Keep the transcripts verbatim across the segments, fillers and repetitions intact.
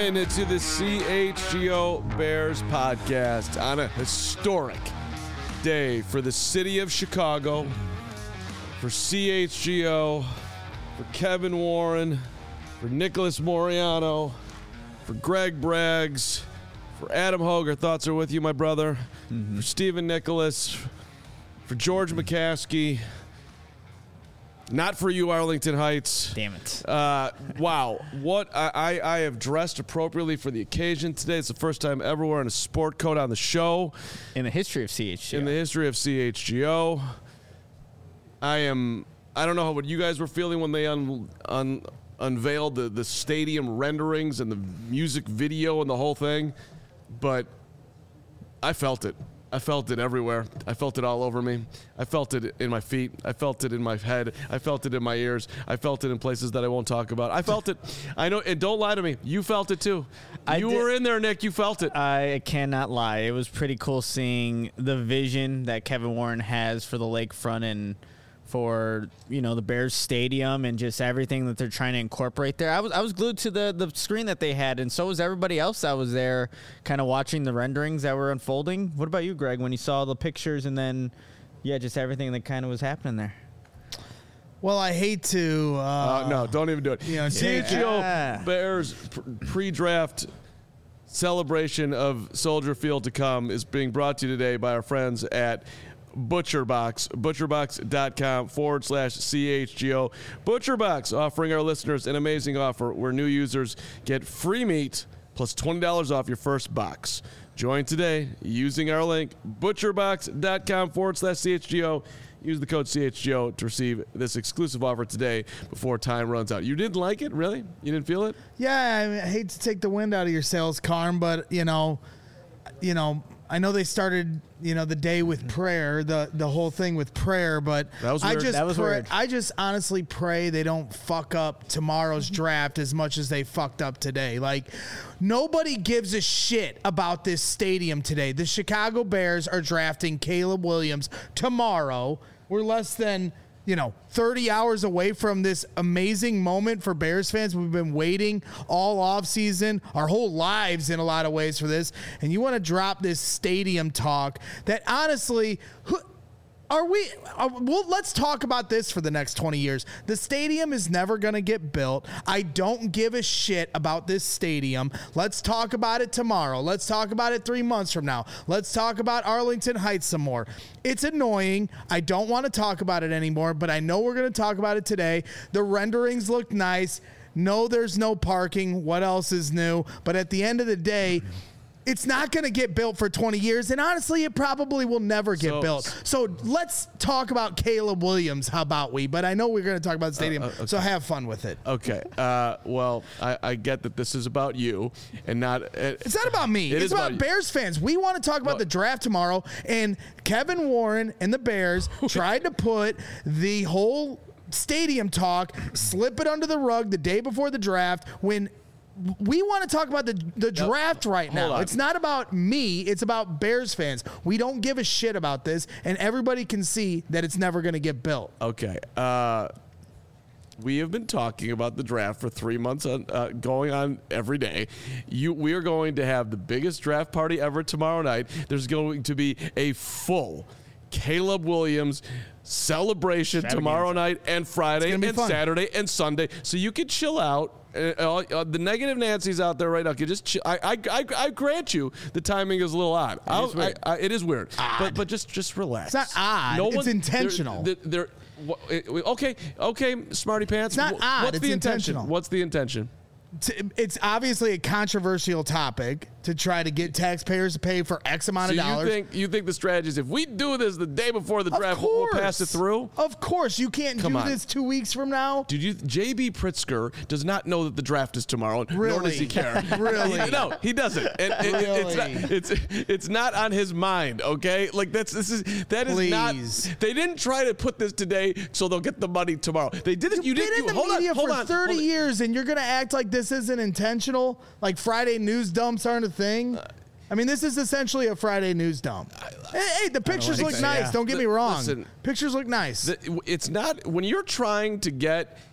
in to the C H G O Bears podcast on a historic day for the city of Chicago, for C H G O, for Kevin Warren, for Nicholas Moriano, for Greg Braggs, for Adam Hogue. Our thoughts are with you, my brother. Mm-hmm. For Stephen Nicholas, for George McCaskey. Not for you, Arlington Heights. Damn it. Uh, wow. What I, I, I have dressed appropriately for the occasion today. It's the first time ever wearing a sport coat on the show. In the history of C H G O. In the history of C H G O. I am, I don't know what you guys were feeling when they un, un, unveiled the, the stadium renderings and the music video and the whole thing, but I felt it. I felt it everywhere. I felt it all over me. I felt it in my feet. I felt it in my head. I felt it in my ears. I felt it in places that I won't talk about. I felt it. I know, and don't lie to me. You felt it too. I you did. were in there, Nick. You felt it. I cannot lie. It was pretty cool seeing the vision that Kevin Warren has for the lakefront and for, you know, the Bears stadium and just everything that they're trying to incorporate there. I was I was glued to the, the screen that they had, and so was everybody else that was there kind of watching the renderings that were unfolding. What about you, Greg, when you saw the pictures and then, yeah, just everything that kind of was happening there? Well, I hate to... Uh, uh, no, don't even do it. You know, C H G O yeah. Bears pre-draft celebration of Soldier Field to come is being brought to you today by our friends at ButcherBox, butcherbox.com forward slash CHGO. ButcherBox offering our listeners an amazing offer where new users get free meat plus twenty dollars off your first box. Join today using our link, butcherbox.com forward slash CHGO. Use the code C H G O to receive this exclusive offer today before time runs out. You didn't like it, really? You didn't feel it? Yeah, I hate to take the wind out of your sails, Carm, but, you know, you know, I know they started, you know, the day with prayer, the the whole thing with prayer, but that was I weird. just that was pray, weird. I just honestly pray they don't fuck up tomorrow's draft as much as they fucked up today. Like, nobody gives a shit about this stadium today. The Chicago Bears are drafting Caleb Williams tomorrow. We're less than, you know, thirty hours away from this amazing moment for Bears fans. We've been waiting all offseason, our whole lives in a lot of ways for this. And you want to drop this stadium talk that honestly, who, are we, are, well, let's talk about this for the next twenty years. The stadium is never going to get built. I don't give a shit about this stadium. Let's talk about it tomorrow. Let's talk about it three months from now. Let's talk about Arlington Heights some more. It's annoying. I don't want to talk about it anymore, but I know we're going to talk about it today. The renderings look nice. No, there's no parking. What else is new? But at the end of the day, it's not going to get built for twenty years, and honestly, it probably will never get so, built. So let's talk about Caleb Williams. How about we? But I know we're going to talk about the stadium, uh, uh, okay. So have fun with it. Okay. Uh, well, I, I get that this is about you and not. Uh, it's not about me. It it's about, about Bears fans. We want to talk about well, the draft tomorrow, and Kevin Warren and the Bears tried to put the whole stadium talk, slip it under the rug the day before the draft when. We want to talk about the the draft yep. right now. It's not about me. It's about Bears fans. We don't give a shit about this, and everybody can see that it's never going to get built. Okay. Uh, we have been talking about the draft for three months, on, uh, going on every day. You, we are going to have the biggest draft party ever tomorrow night. There's going to be a full Caleb Williams celebration Saturday tomorrow night and Friday and fun. Saturday and Sunday, so you can chill out. Uh, uh, the negative Nancy's out there right now. Can just chill. I, I I I grant you the timing is a little odd. It is weird. I, I, it is weird. Odd. But but just just relax. It's not odd. No it's one, intentional. They're, they're, they're, okay okay Smarty Pants. It's not odd. What's it's the intentional. intention? What's the intention? It's obviously a controversial topic to try to get taxpayers to pay for X amount so of dollars. You think you think the strategy is if we do this the day before the draft, we'll pass it through? Of course. You can't Come do on. this two weeks from now. Dude, you, J B Pritzker does not know that the draft is tomorrow, really? nor does he care. Really? He, no, he doesn't. And it, really? it's, not, it's it's not on his mind, okay? Like that's this is that Please. is not. They didn't try to put this today so they'll get the money tomorrow. They did it. You've You been didn't. in the hold media on, hold for on, thirty hold on. years, and you're going to act like this isn't intentional. Like Friday news dumps aren't a thing. I mean, this is essentially a Friday news dump. Hey, hey the pictures look so, nice. yeah. Don't get me wrong. Listen, pictures look nice. The, it's not when you're trying to get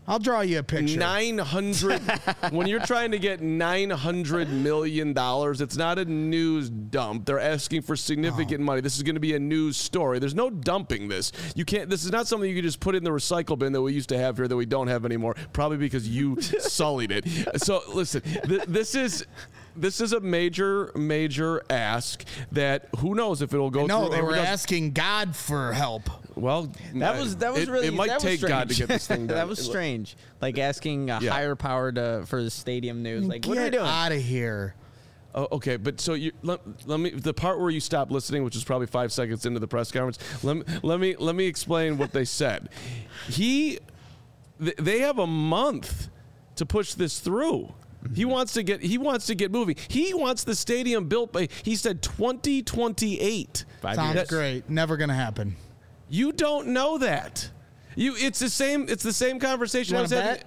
I'll draw you a picture. nine hundred when you're trying to get nine hundred million dollars, it's not a news dump. They're asking for significant oh. money. This is going to be a news story. There's no dumping this. You can't. This is not something you can just put in the recycle bin that we used to have here that we don't have anymore. Probably because you sullied it. So listen, th- this is. This is a major, major ask that who knows if it'll go no, through. No, they were asking God for help. Well, that was that was it, really it might that take was God to get this thing done. That was strange. Like asking a yeah. higher power to for the stadium news. Like, get what are we doing? Out of here. Oh, okay, but so you let, let me the part where you stopped listening, which is probably five seconds into the press conference. Let me let me let me explain what they said. He, th- they have a month to push this through. He wants to get he wants to get moving. He wants the stadium built by he said twenty twenty-eight. Five Sounds years. Great. Never going to happen. You don't know that. You it's the same it's the same conversation you I was having.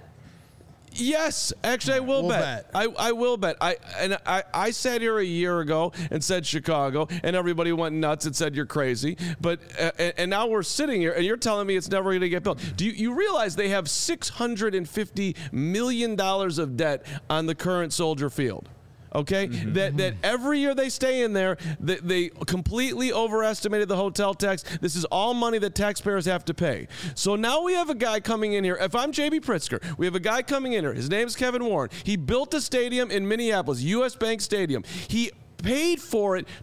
Yes, actually, I will we'll bet. bet. I, I will bet. I and I, I sat here a year ago and said Chicago, and everybody went nuts and said you're crazy. But uh, and now we're sitting here, and you're telling me it's never going to get built. Do you, you realize they have six hundred fifty million dollars of debt on the current Soldier Field? Okay, mm-hmm. that that every year they stay in there, they, they completely overestimated the hotel tax. This is all money that taxpayers have to pay. So now we have a guy coming in here. If I'm J B Pritzker, we have a guy coming in here. His name's Kevin Warren. He built a stadium in Minneapolis, U S Bank Stadium. He paid for it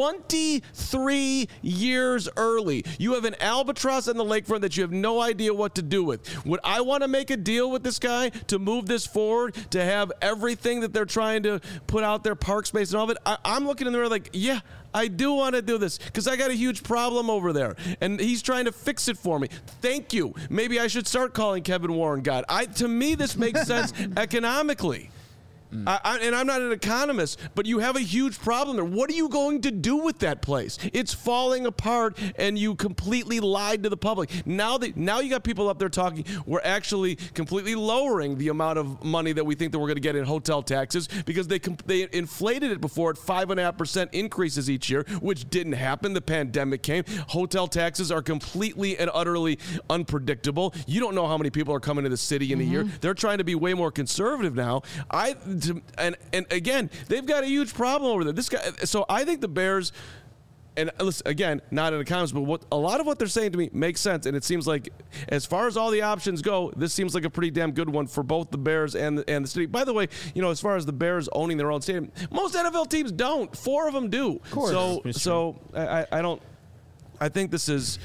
twenty-three years early. You have an albatross on the lakefront that you have no idea what to do with. Would I want to make a deal with this guy to move this forward, to have everything that they're trying to put out there, park space and all of it? I, I'm looking in there like, yeah, I do want to do this because I got a huge problem over there, and he's trying to fix it for me. Thank you. Maybe I should start calling Kevin Warren God. I, to me, this makes sense economically. Mm. I, I, and I'm not an economist, but you have a huge problem there. What are you going to do with that place? It's falling apart, and you completely lied to the public. Now that now you got people up there talking, we're actually completely lowering the amount of money that we think that we're going to get in hotel taxes because they they inflated it before at five and a half percent increases each year, which didn't happen. The pandemic came. Hotel taxes are completely and utterly unpredictable. You don't know how many people are coming to the city in mm-hmm. a year. They're trying to be way more conservative now. I. To, and and again, they've got a huge problem over there. This guy. So I think the Bears, and listen, again, not an economist, but what a lot of what they're saying to me makes sense. And it seems like, as far as all the options go, this seems like a pretty damn good one for both the Bears and the, and the city. By the way, you know, as far as the Bears owning their own stadium, most N F L teams don't. Four of them do. Of course. So so I, I don't. I think this is.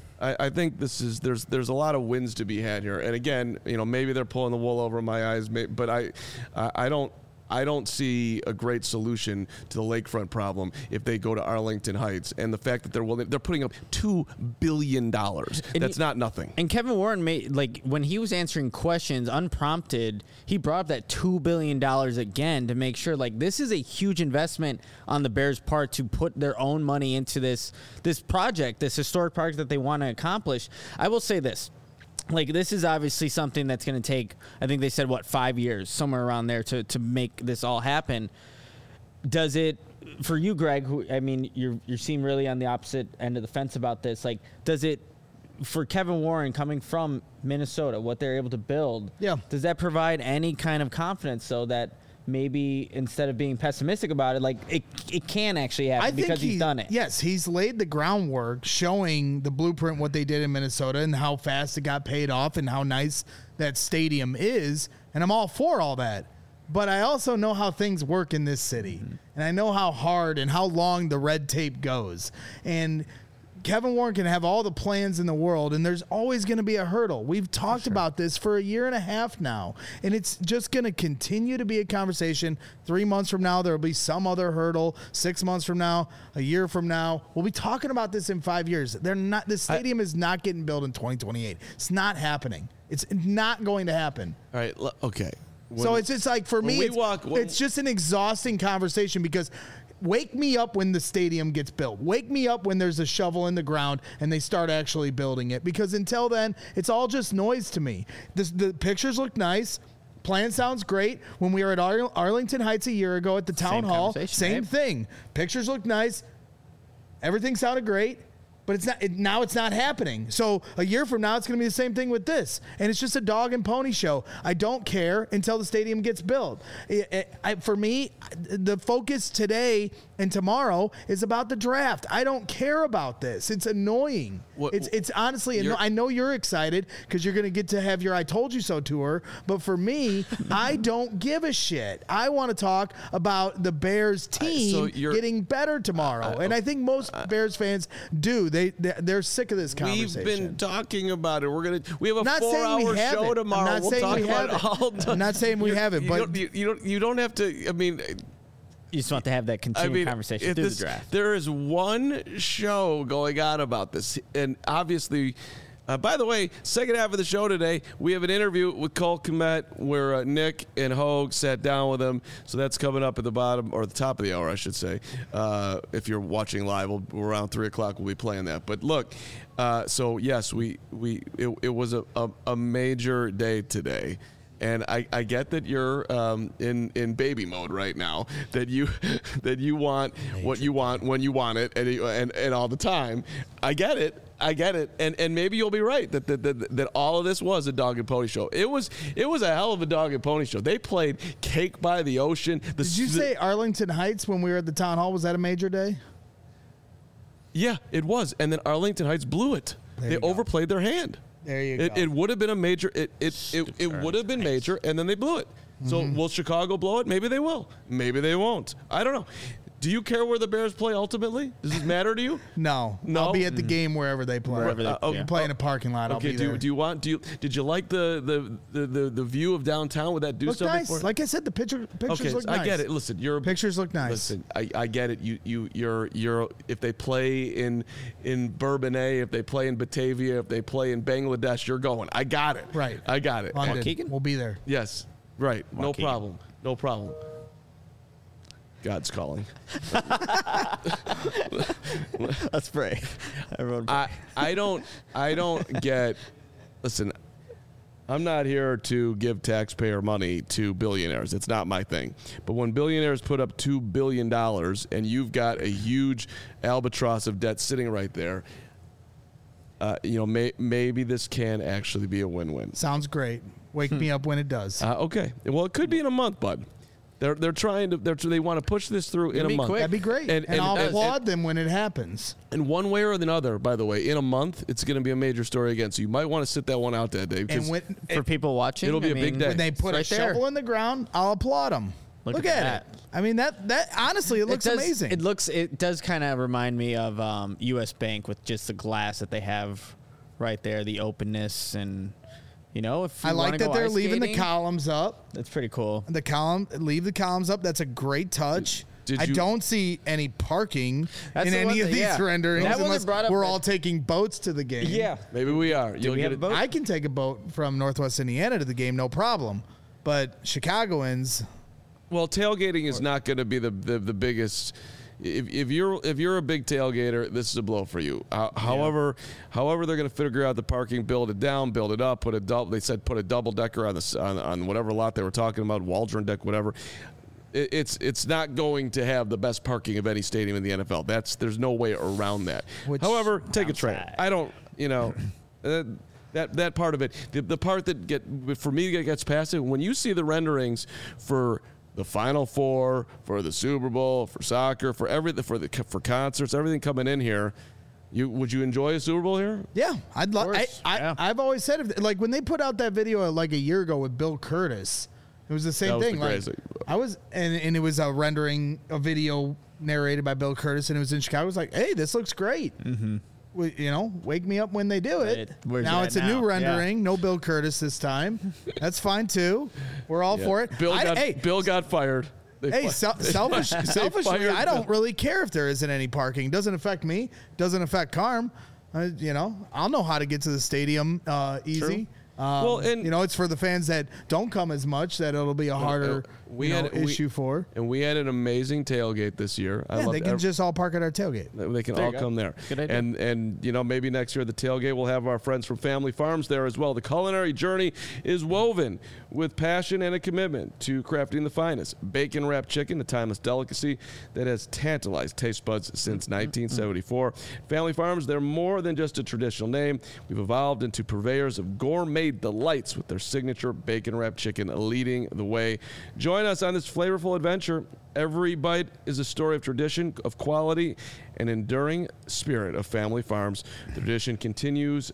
I think this is there's there's a lot of wins to be had here, and again, you know, maybe they're pulling the wool over my eyes, but I, I don't. I don't see a great solution to the lakefront problem if they go to Arlington Heights, and the fact that they're willing, they're putting up two billion dollars. That's he, not nothing. And Kevin Warren made, like, when he was answering questions unprompted, he brought up that two billion dollars again to make sure, like, this is a huge investment on the Bears' part to put their own money into this this project, this historic project that they want to accomplish. I will say this. Like, this is obviously something that's going to take, I think they said, what, five years, somewhere around there to, to make this all happen. Does it, for you, Greg, who, I mean, you're, you seem really on the opposite end of the fence about this. Like, does it, for Kevin Warren coming from Minnesota, what they're able to build, yeah. does that provide any kind of confidence so that maybe instead of being pessimistic about it, like it it can actually happen I think because he's he, done it. Yes, he's laid the groundwork showing the blueprint what they did in Minnesota and how fast it got paid off and how nice that stadium is. And I'm all for all that. But I also know how things work in this city. Mm-hmm. And I know how hard and how long the red tape goes. And Kevin Warren can have all the plans in the world, and there's always going to be a hurdle. We've talked sure. about this for a year and a half now, and it's just going to continue to be a conversation. Three months from now, there will be some other hurdle. Six months from now, a year from now, we'll be talking about this in five years. They're not. This stadium I, is not getting built in twenty twenty-eight. It's not happening. It's not going to happen. All right. Okay. When, so it's just like for me, it's, walk, when, it's just an exhausting conversation because. Wake me up when the stadium gets built. Wake me up when there's a shovel in the ground and they start actually building it. Because until then, it's all just noise to me. This, the pictures look nice. Plan sounds great. When we were at Ar- Arlington Heights a year ago at the town same hall, same right? thing. Pictures look nice. Everything sounded great. but it's not. It, now it's not happening. So a year from now, it's going to be the same thing with this, and it's just a dog and pony show. I don't care until the stadium gets built. It, it, I, for me, the focus today and tomorrow is about the draft. I don't care about this. It's annoying. What, it's it's honestly. Anno- I know you're excited because you're going to get to have your "I told you so" tour, but for me, I don't give a shit. I want to talk about the Bears team so you're- getting better tomorrow, I- and I think most Bears fans do. They they're, they're sick of this conversation. We've been talking about it. We're gonna. We have a Not saying we four-hour haven't. show I'm tomorrow. not we'll saying talk we about haven't. it all the- I'm not saying we You- haven't, you but- don't, you, you don't. You don't have to. I mean. You just want to have that I continued mean, conversation if through this- the draft. There is one show going on about this, and obviously, uh, by the way, second half of the show today, we have an interview with Cole Kmet where uh, Nick and Hogue sat down with him. So that's coming up at the bottom or the top of the hour, I should say. Uh, if you're watching live, we'll, around three o'clock, we'll be playing that. But look, uh, so yes, we we it, it was a, a, a major day today. And I, I get that you're um, in, in baby mode right now. That you that you want what you want when you want it, and, and and all the time. I get it. I get it. And and maybe you'll be right that that, that that all of this was a dog and pony show. It was it was a hell of a dog and pony show. They played Cake by the Ocean. The, Did you the, say Arlington Heights when we were at the town hall? Was that a major day? Yeah, it was. And then Arlington Heights blew it. There they you go. overplayed their hand. There you It, go. it would have been a major. It it it, it would have been major, and then they blew it. So Mm-hmm. will Chicago blow it? Maybe they will. Maybe they won't. I don't know. Do you care where the Bears play ultimately? Does this matter to you? No, No? I'll be at the game wherever they play. Wherever they- Uh, oh, yeah. Play in a parking lot. I'll Okay. be Do there. you, do you want? Do you did you like the the the the, the view of downtown with that do look something nice. for it? Like I said, the picture pictures Okay, look I nice. get it. Listen, you're Pictures look nice. Listen, I, I get it. You you you're you're if they play in in Bourbonnais, if they play in Batavia, if they play in Bangladesh, you're going. I got it. Right. I got it. London. Waukegan? We'll be there. Yes. Right. No Waukegan. problem. No problem. God's calling. Let's pray. Everyone pray. I I don't I don't get. Listen, I'm not here to give taxpayer money to billionaires. It's not my thing. But when billionaires put up two billion dollars and you've got a huge albatross of debt sitting right there, uh, you know, may, maybe this can actually be a win-win. Sounds great. Wake me up when it does. Uh, okay. Well, it could be in a month, bud. They're they're trying to they're, they want to push this through in It'd a be month. quick. That'd be great. And- And, and- I'll and- applaud them when it happens. And one way or the other, by the way, in a month, it's going to be a major story again. So you might want to sit that one out that day. because And when, For people watching, It'll be I a big mean, day. when they put right a there. shovel in the ground, I'll applaud them. Look Look, at at, that. it. I mean that that honestly, it looks does, amazing. It looks. It does kind of remind me of um, U S Bank with just the glass that they have right there, the openness, and you know, if you I like wanna that go they're ice leaving the skating, columns up. That's pretty cool. The column, leave the columns up. That's a great touch. Did- did I you- don't see any parking That's in the one any of thing, these yeah. renderings That one unless they brought up we're that- all taking boats to the game. maybe we are. You'll we get have it. a boat? I can take a boat from Northwest Indiana to the game, no problem. But Chicagoans, Well, tailgating is not going to be the, the, the biggest. If, if you're if you're a big tailgater, this is a blow for you. Uh, however, however they're going to figure out the parking, build it down, build it up, put a double. They said put a double decker on the on, on whatever lot they were talking about, Waldron deck, whatever. It, it's it's not going to have the best parking of any stadium in the N F L. That's there's no way around that. Which- However, take a train. Outside. I don't. You know. Uh, that that part of it, the, the part that get for me that gets past it, when you see the renderings for the Final Four, for the Super Bowl, for soccer, for everything, for the for concerts, everything coming in here, you would you enjoy a Super Bowl here? yeah, I'd love. I, course, I, yeah. I've always said, if, like when they put out that video uh, like a year ago with Bill Curtis, it was the same That was thing. the Like, greatest thing. I was, and and it was a rendering, a video narrated by Bill Curtis, and it was in Chicago. I was like, hey, this looks great. Mm-hmm. You know, wake me up when they do it. Right. Where's Now it it's at a new now? rendering, no Bill Curtis this time. That's fine too. We're all Yeah. for it. Bill I- got hey, Bill got fired. They Hey, fi- sel- selfish, they selfishly, fired I don't Bill. really care if there isn't any parking. Doesn't affect me. Doesn't affect Carm. Uh, you know, I'll know how to get to the stadium uh, easy. Um, Well, and- you know, it's for the fans that don't come as much that it'll be a harder We you know, had we- issue four. And we had an amazing tailgate this year. I Yeah, loved they can ev- just all park at our tailgate. They can There all you go. come there. Good idea. And and you know, maybe next year the tailgate will have our friends from Family Farms there as well. The culinary journey is woven with passion and a commitment to crafting the finest bacon wrapped chicken, a timeless delicacy that has tantalized taste buds since nineteen seventy-four. Family Farms, they're more than just a traditional name. We've evolved into purveyors of gourmet delights with their signature bacon wrapped chicken leading the way. Join us on this flavorful adventure. Every bite is a story of tradition, of quality, and enduring spirit of Family Farms. The tradition continues.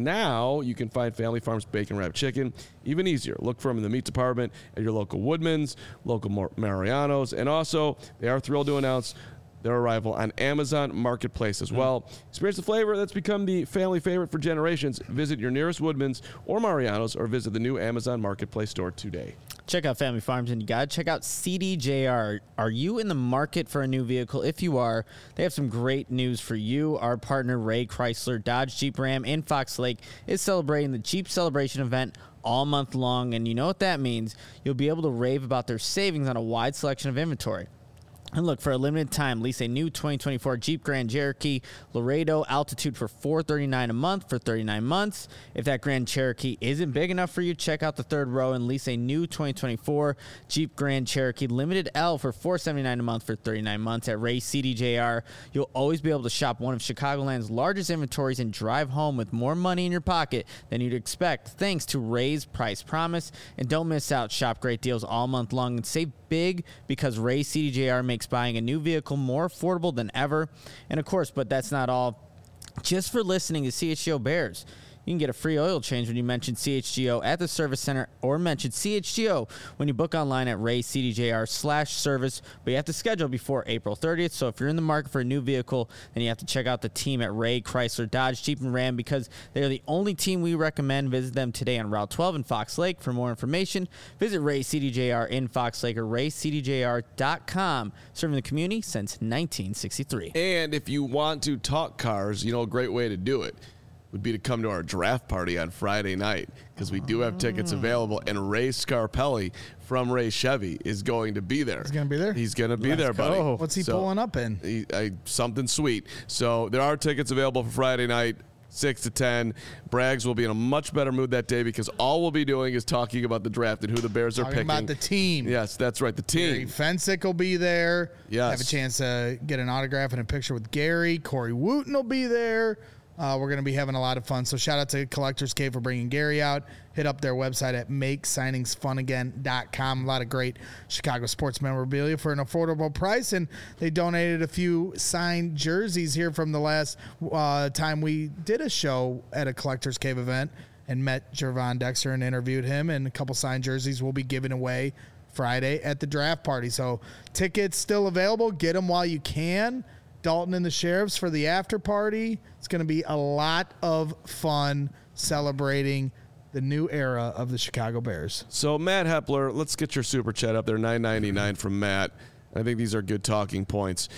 Now you can find Family Farms bacon wrapped chicken even easier. Look for them in the meat department at your local Woodman's, local Mar- Mariano's, and also they are thrilled to announce their arrival on Amazon Marketplace as well. Experience the flavor that's become the family favorite for generations. Visit your nearest Woodman's or Mariano's or visit the new Amazon Marketplace store today. Check out Family Farms, and you got to check out C D J R. Are you in the market for a new vehicle? If you are, they have some great news for you. Our partner, Ray Chrysler Dodge Jeep Ram in Fox Lake, is celebrating the Jeep Celebration event all month long, and you know what that means. You'll be able to rave about their savings on a wide selection of inventory. And look, for a limited time, lease a new twenty twenty-four Jeep Grand Cherokee Laredo Altitude for four hundred thirty-nine dollars a month for thirty-nine months. If that Grand Cherokee isn't big enough for you, check out the third row and lease a new twenty twenty-four Jeep Grand Cherokee Limited L for four hundred seventy-nine dollars a month for thirty-nine months. At Ray C D J R, you'll always be able to shop one of Chicagoland's largest inventories and drive home with more money in your pocket than you'd expect, thanks to Ray's Price Promise. And don't miss out. Shop great deals all month long and save big because Ray C D J R makes buying a new vehicle more affordable than ever. And of course, but that's not all. Just for listening to C H G O Bears, you can get a free oil change when you mention C H G O at the service center or mention C H G O when you book online at Ray C D J R slash service. But you have to schedule before April thirtieth. So if you're in the market for a new vehicle, then you have to check out the team at Ray Chrysler Dodge Jeep and Ram because they're the only team we recommend. Visit them today on Route twelve in Fox Lake. For more information, visit Ray C D J R in Fox Lake or ray c d j r dot com. Serving the community since nineteen sixty-three. And if you want to talk cars, you know, a great way to do it would be to come to our draft party on Friday night because we do have tickets available, and Ray Scarpelli from Ray Chevy is going to be there. He's going to be there? He's going to be Let's there, buddy. go. What's he So, pulling up in? He, I, something sweet. So there are tickets available for Friday night, six to ten. Braggs will be in a much better mood that day because all we'll be doing is talking about the draft and who the Bears are Talking picking. about the team. Yes, that's right, the Gary team. Fensick will be there. Yes. Have a chance to get an autograph and a picture with Gary. Corey Wooten will be there. Uh, we're going to be having a lot of fun. So shout out to Collectors Cave for bringing Gary out. Hit up their website at make signings fun again dot com. A lot of great Chicago sports memorabilia for an affordable price. And they donated a few signed jerseys here from the last uh, time we did a show at a Collectors Cave event and met Jervon Dexter and interviewed him. And a couple signed jerseys will be given away Friday at the draft party. So tickets still available. Get them while you can. Dalton and the Sheriffs for the after party. It's going to be a lot of fun celebrating the new era of the Chicago Bears. So Matt Hepler, let's get your super chat up there, nine ninety-nine from Matt. I think these are good talking points.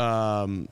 Um,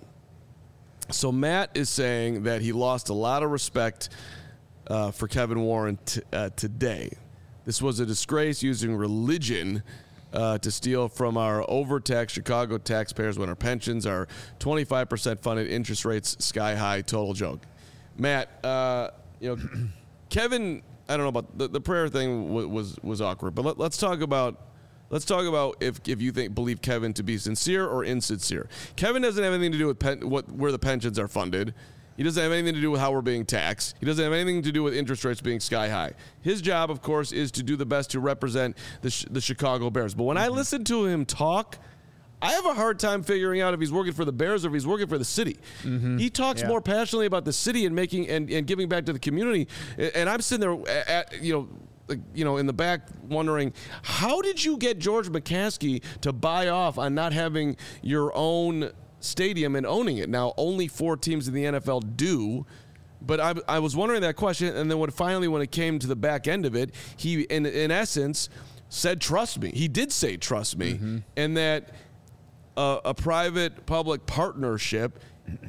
so Matt is saying that he lost a lot of respect uh, for Kevin Warren t- uh, today. This was a disgrace using religion Uh, to steal from our overtaxed Chicago taxpayers when our pensions are twenty-five percent funded, interest rates sky high, total joke. Matt, uh, you know, Kevin, I don't know about the, the prayer thing w- was was awkward, but let, let's talk about let's talk about if if you think believe Kevin to be sincere or insincere. Kevin doesn't have anything to do with pen, what where the pensions are funded. He doesn't have anything to do with how we're being taxed. He doesn't have anything to do with interest rates being sky high. His job, of course, is to do the best to represent the, the Chicago Bears. But when mm-hmm. I listen to him talk, I have a hard time figuring out if he's working for the Bears or if he's working for the city. Mm-hmm. He talks yeah. more passionately about the city and making and, and giving back to the community. And I'm sitting there, at, you know, you know, in the back wondering, how did you get George McCaskey to buy off on not having your own stadium and owning it? Now, only four teams in the N F L do, but I, I was wondering that question, and then when finally, when it came to the back end of it, he, in, in essence, said, trust me. He did say, trust me, mm-hmm. and that uh, a private-public partnership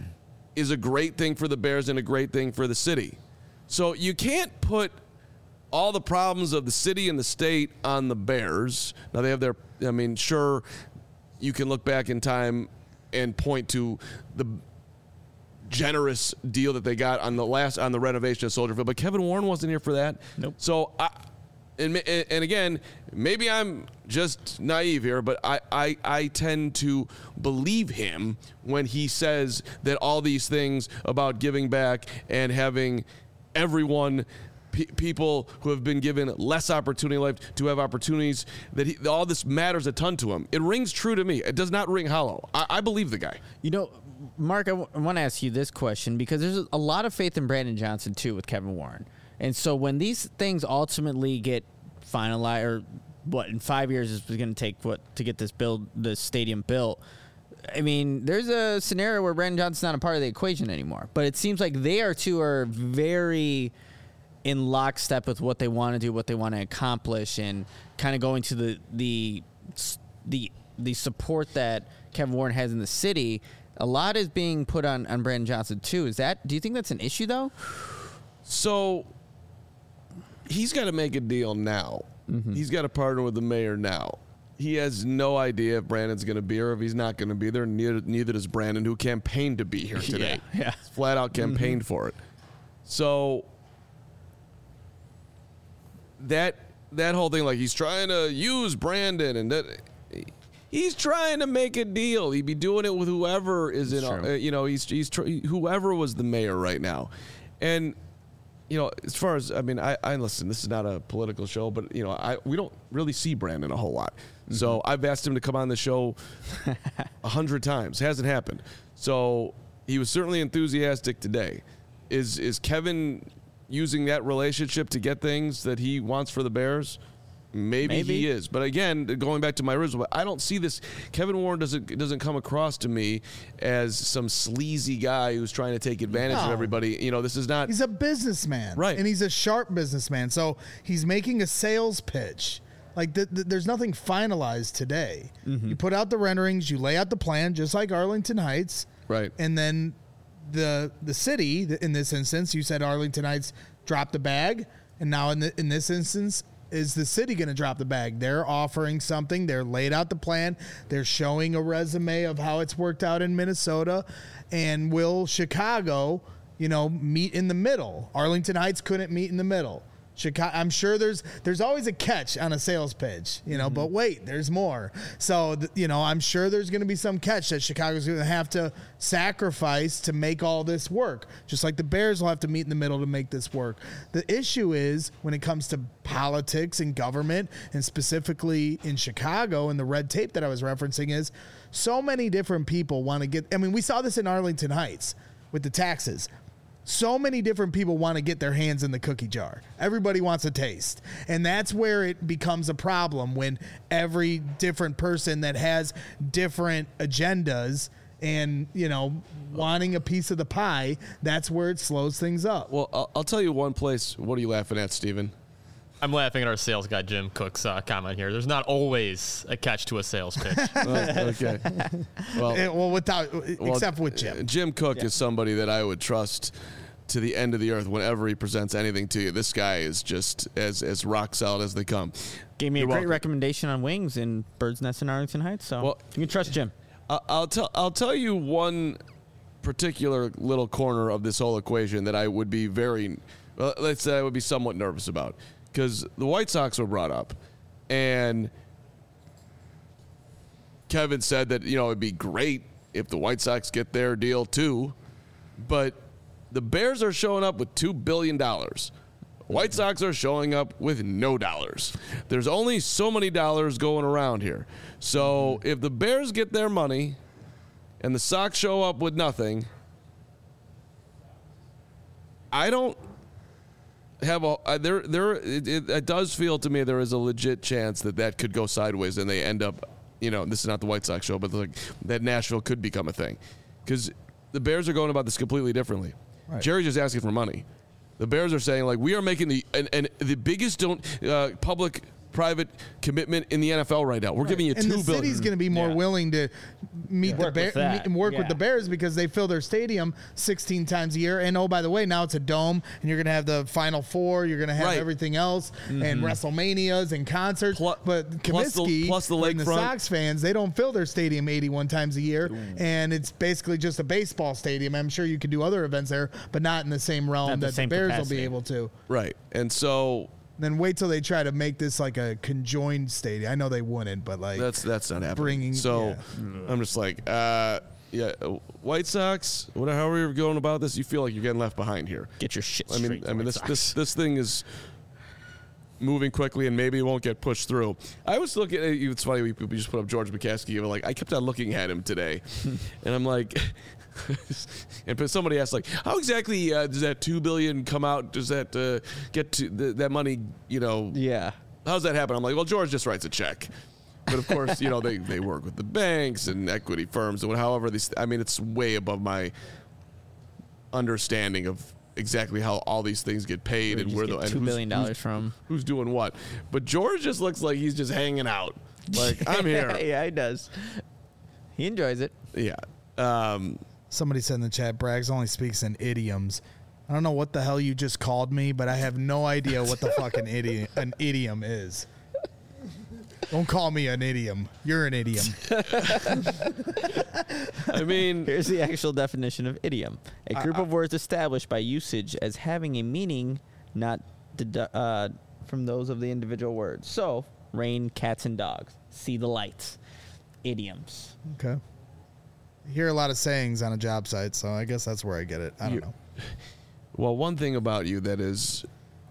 is a great thing for the Bears and a great thing for the city. So you can't put all the problems of the city and the state on the Bears. Now they have their, I mean, sure, you can look back in time and point to the generous deal that they got on the last on the renovation of Soldier Field, but Kevin Warren wasn't here for that. Nope. So I. And, and again, maybe I'm just naive here, but I, I, I tend to believe him when he says that all these things about giving back and having everyone, pe- people who have been given less opportunity in life to have opportunities, that he, all this matters a ton to him. It rings true to me. It does not ring hollow. I, I believe the guy. You know, Mark, I, w- I want to ask you this question because there's a lot of faith in Brandon Johnson, too, with Kevin Warren. And so when these things ultimately get finalized, or what, in five years is going to take what to get this build, this stadium built, I mean, there's a scenario where Brandon Johnson's not a part of the equation anymore. But it seems like they are two are very in lockstep with what they want to do, what they want to accomplish, and kind of going to the the the the support that Kevin Warren has in the city. A lot is being put on, on Brandon Johnson too. Is that? Do you think that's an issue though? So he's got to make a deal now. Mm-hmm. He's got to partner with the mayor now. He has no idea if Brandon's going to be here or if he's not going to be there. Neither, neither does Brandon, who campaigned to be here today. Yeah, yeah. Flat out campaigned mm-hmm. for it. So that that whole thing, like he's trying to use Brandon, and that he's trying to make a deal. He'd be doing it with whoever is in. Uh, you know, he's he's whoever was the mayor right now, and. You know, as far as, I mean, I, I listen, this is not a political show, but, you know, I we don't really see Brandon a whole lot. Mm-hmm. So I've asked him to come on the show a hundred times. Hasn't happened. So he was certainly enthusiastic today. Is is Kevin using that relationship to get things that he wants for the Bears? Maybe, Maybe he is. But again, going back to my original, I don't see this. Kevin Warren doesn't doesn't come across to me as some sleazy guy who's trying to take advantage no. of everybody. You know, this is not. He's a businessman. Right. And he's a sharp businessman. So he's making a sales pitch. Like, th- th- there's nothing finalized today. Mm-hmm. You put out the renderings, you lay out the plan, just like Arlington Heights. Right. And then the the city, in this instance, you said Arlington Heights dropped the bag. And now in the, in this instance, is the city going to drop the bag? They're offering something. They're laid out the plan. They're showing a resume of how it's worked out in Minnesota. And will Chicago, you know, meet in the middle? Arlington Heights couldn't meet in the middle. Chicago, I'm sure there's there's always a catch on a sales pitch, you know, mm-hmm. but wait, there's more. So, th- you know, I'm sure there's going to be some catch that Chicago's going to have to sacrifice to make all this work, just like the Bears will have to meet in the middle to make this work. The issue is when it comes to politics and government, and specifically in Chicago and the red tape that I was referencing, is so many different people want to get, I mean, we saw this in Arlington Heights with the taxes. So many different people want to get their hands in the cookie jar. Everybody wants a taste. And that's where it becomes a problem, when every different person that has different agendas and, you know, wanting a piece of the pie, that's where it slows things up. Well, I'll, I'll tell you one place. What are you laughing at, Steven? I'm laughing at our sales guy, Jim Cook's uh, comment here. There's not always a catch to a sales pitch. Oh, okay. Well, it, well, without well, except with Jim. Jim Cook yeah. is somebody that I would trust to the end of the earth whenever he presents anything to you. This guy is just as as rock solid as they come. Gave me You're a great welcome. recommendation on wings in Bird's Nest in Arlington Heights. So well, you can trust Jim. I'll tell I'll tell you one particular little corner of this whole equation that I would be very, well, let's say I would be somewhat nervous about. Because the White Sox were brought up, and Kevin said that, you know, it'd be great if the White Sox get their deal too, but the Bears are showing up with two billion dollars. White Sox are showing up with no dollars. There's only so many dollars going around here. So if the Bears get their money and the Sox show up with nothing, I don't have a uh, there there it, it, it does feel to me there is a legit chance that that could go sideways and they end up, you know, this is not the White Sox show, but like that Nashville could become a thing, because the Bears are going about this completely differently. Right. Jerry's just asking for money. The Bears are saying, like, we are making the and, and the biggest don't uh, public private commitment in the N F L right now. We're giving you and two the billion. city's going to be more Yeah. willing to meet the Work Bear, with that. meet and work with Yeah. the Bears because they fill their stadium sixteen times a year. And oh, by the way, now it's a dome, and you're going to have the Final Four. You're going to have Right. everything else, and WrestleManias and concerts. Plu- but plus the- Comiskey plus the and the lakefront. Sox fans, they don't fill their stadium eighty-one times a year, and it's basically just a baseball stadium. I'm sure you could do other events there, but not in the same realm Not the that the same Bears will capacity. be able to. Right. And so Then wait till they try to make this like a conjoined stadium. I know they wouldn't, but like that's that's not happening. Bringing- so yeah. I'm just like, uh, yeah, uh, White Sox, whatever, however you're going about this, you feel like you're getting left behind here. Get your shit I straight. mean, I mean, White this Sox. this this thing is moving quickly, and maybe it won't get pushed through. I was looking at it's funny we, we just put up George McCaskey, but like I kept on looking at him today, and I'm like. And but somebody asked, like, how exactly uh, does that two billion come out? Does that uh, get to the, that money? You know, Yeah. how's that happen? I'm like, well, George just writes a check. But of course, you know, they, they work with the banks and equity firms and however these. I mean, it's way above my understanding of exactly how all these things get paid and where the and two who's- billion dollars who's, from. who's doing what. But George just looks like he's just hanging out. Like I'm here. yeah, he does. He enjoys it. Yeah. Um, Somebody said in the chat, Braggs only speaks in idioms. I don't know what the hell you just called me, but I have no idea what the fucking idiom an idiom is. Don't call me an idiom. You're an idiom. I mean, Here's the actual definition of idiom: a group of words established by usage as having a meaning not dedu- uh, from those of the individual words. So, rain, cats, and dogs. See the lights. Idioms. Okay. You hear a lot of sayings on a job site, so I guess that's where I get it. I don't You- know. well, one thing about you that is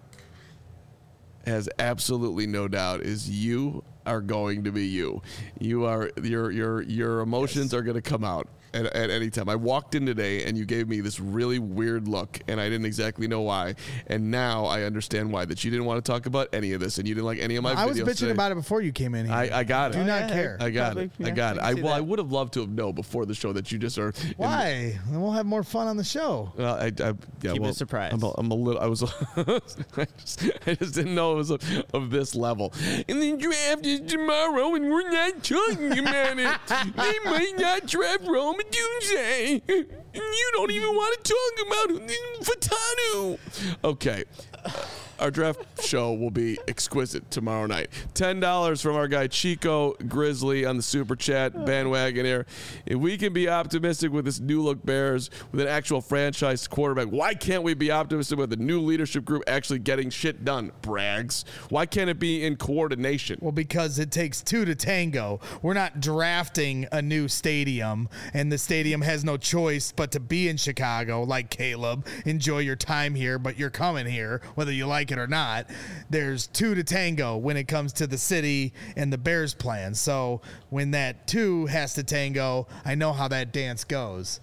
has absolutely no doubt is you are going to be you. You are your your your emotions are going to come out at, at any time. I walked in today and you gave me this really weird look, and I didn't exactly know why. And now I understand why. That you didn't want to talk about any of this, and you didn't like any of my. I was videos bitching today. about it before you came in here. I, I got it. Do not yeah. care. I got Probably, it. I yeah, got it. I I can see well, I that. would have loved to have known before the show that you just are. Why? Then we'll have more fun on the show. Well, I, I yeah, Keep it well, a surprise. I'm a, I'm a little. I was. I, just, I just didn't know it was of, of this level. And the draft is tomorrow, and we're not talking about it. They might not draft Rome Tuesday, and you don't even want to talk about Fatanu. Okay. Our draft show will be exquisite tomorrow night. ten dollars from our guy Chico Grizzly on the Super Chat bandwagon here. If we can be optimistic with this new look Bears with an actual franchise quarterback, why can't we be optimistic with the new leadership group actually getting shit done, Braggs? Why can't it be in coordination? Well, because it takes two to tango. We're not drafting a new stadium, and the stadium has no choice but to be in Chicago, like Caleb. Enjoy your time here, but you're coming here, whether you like it or not. There's two to tango when it comes to the city and the Bears plan. So when that two has to tango, I know how that dance goes.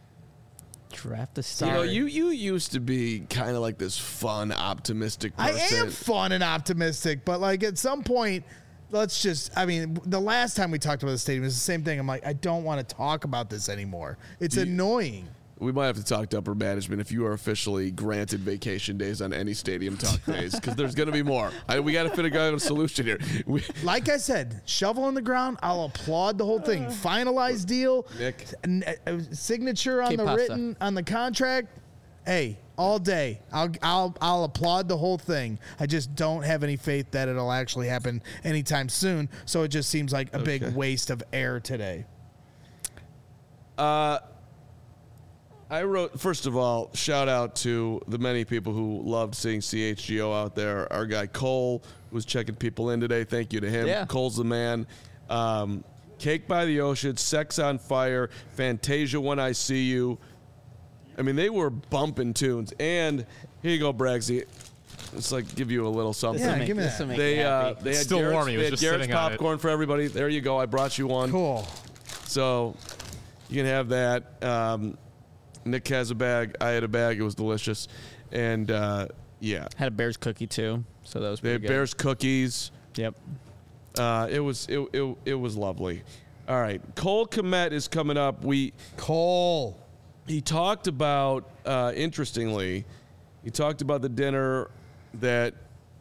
Draft the You star. know, you you used to be kind of like this fun, optimistic person. I am fun and optimistic, but like at some point, let's just, I mean, the last time we talked about the stadium is the same thing. I'm like, I don't want to talk about this anymore. It's you- annoying. We might have to talk to upper management if you are officially granted vacation days on any stadium talk days, because there's going to be more. I, we got to figure out a solution here. We, Like I said, shovel in the ground. I'll applaud the whole thing. Finalized deal, Nick. n- uh, signature on Que the pasa? written on the contract. Hey, all day. I'll I'll I'll applaud the whole thing. I just don't have any faith that it'll actually happen anytime soon. So it just seems like a Okay. big waste of air today. I wrote, first of all, shout out to the many people who loved seeing C H G O out there. Our guy Cole was checking people in today. Thank you to him. Yeah. Cole's the man. Um, Cake by the Ocean, Sex on Fire, Fantasia When I See You. I mean, they were bumping tunes. And here you go, Braggsy. It's like give you a little something. Yeah, make, give me this'll that. make They me uh, happy. they had Still Garrett's, warm. He they was had just Garrett's sitting on it. popcorn for everybody. There you go. I brought you one. Cool. So you can have that. Um, Nick has a bag. I had a bag. It was delicious. And uh, yeah, Had a Bears cookie too, so that was they pretty had good. Bears cookies. Yep. Uh, it was it, it it was lovely. All right, Cole Kmet is coming up. We Cole. he talked about uh, interestingly, he talked about the dinner that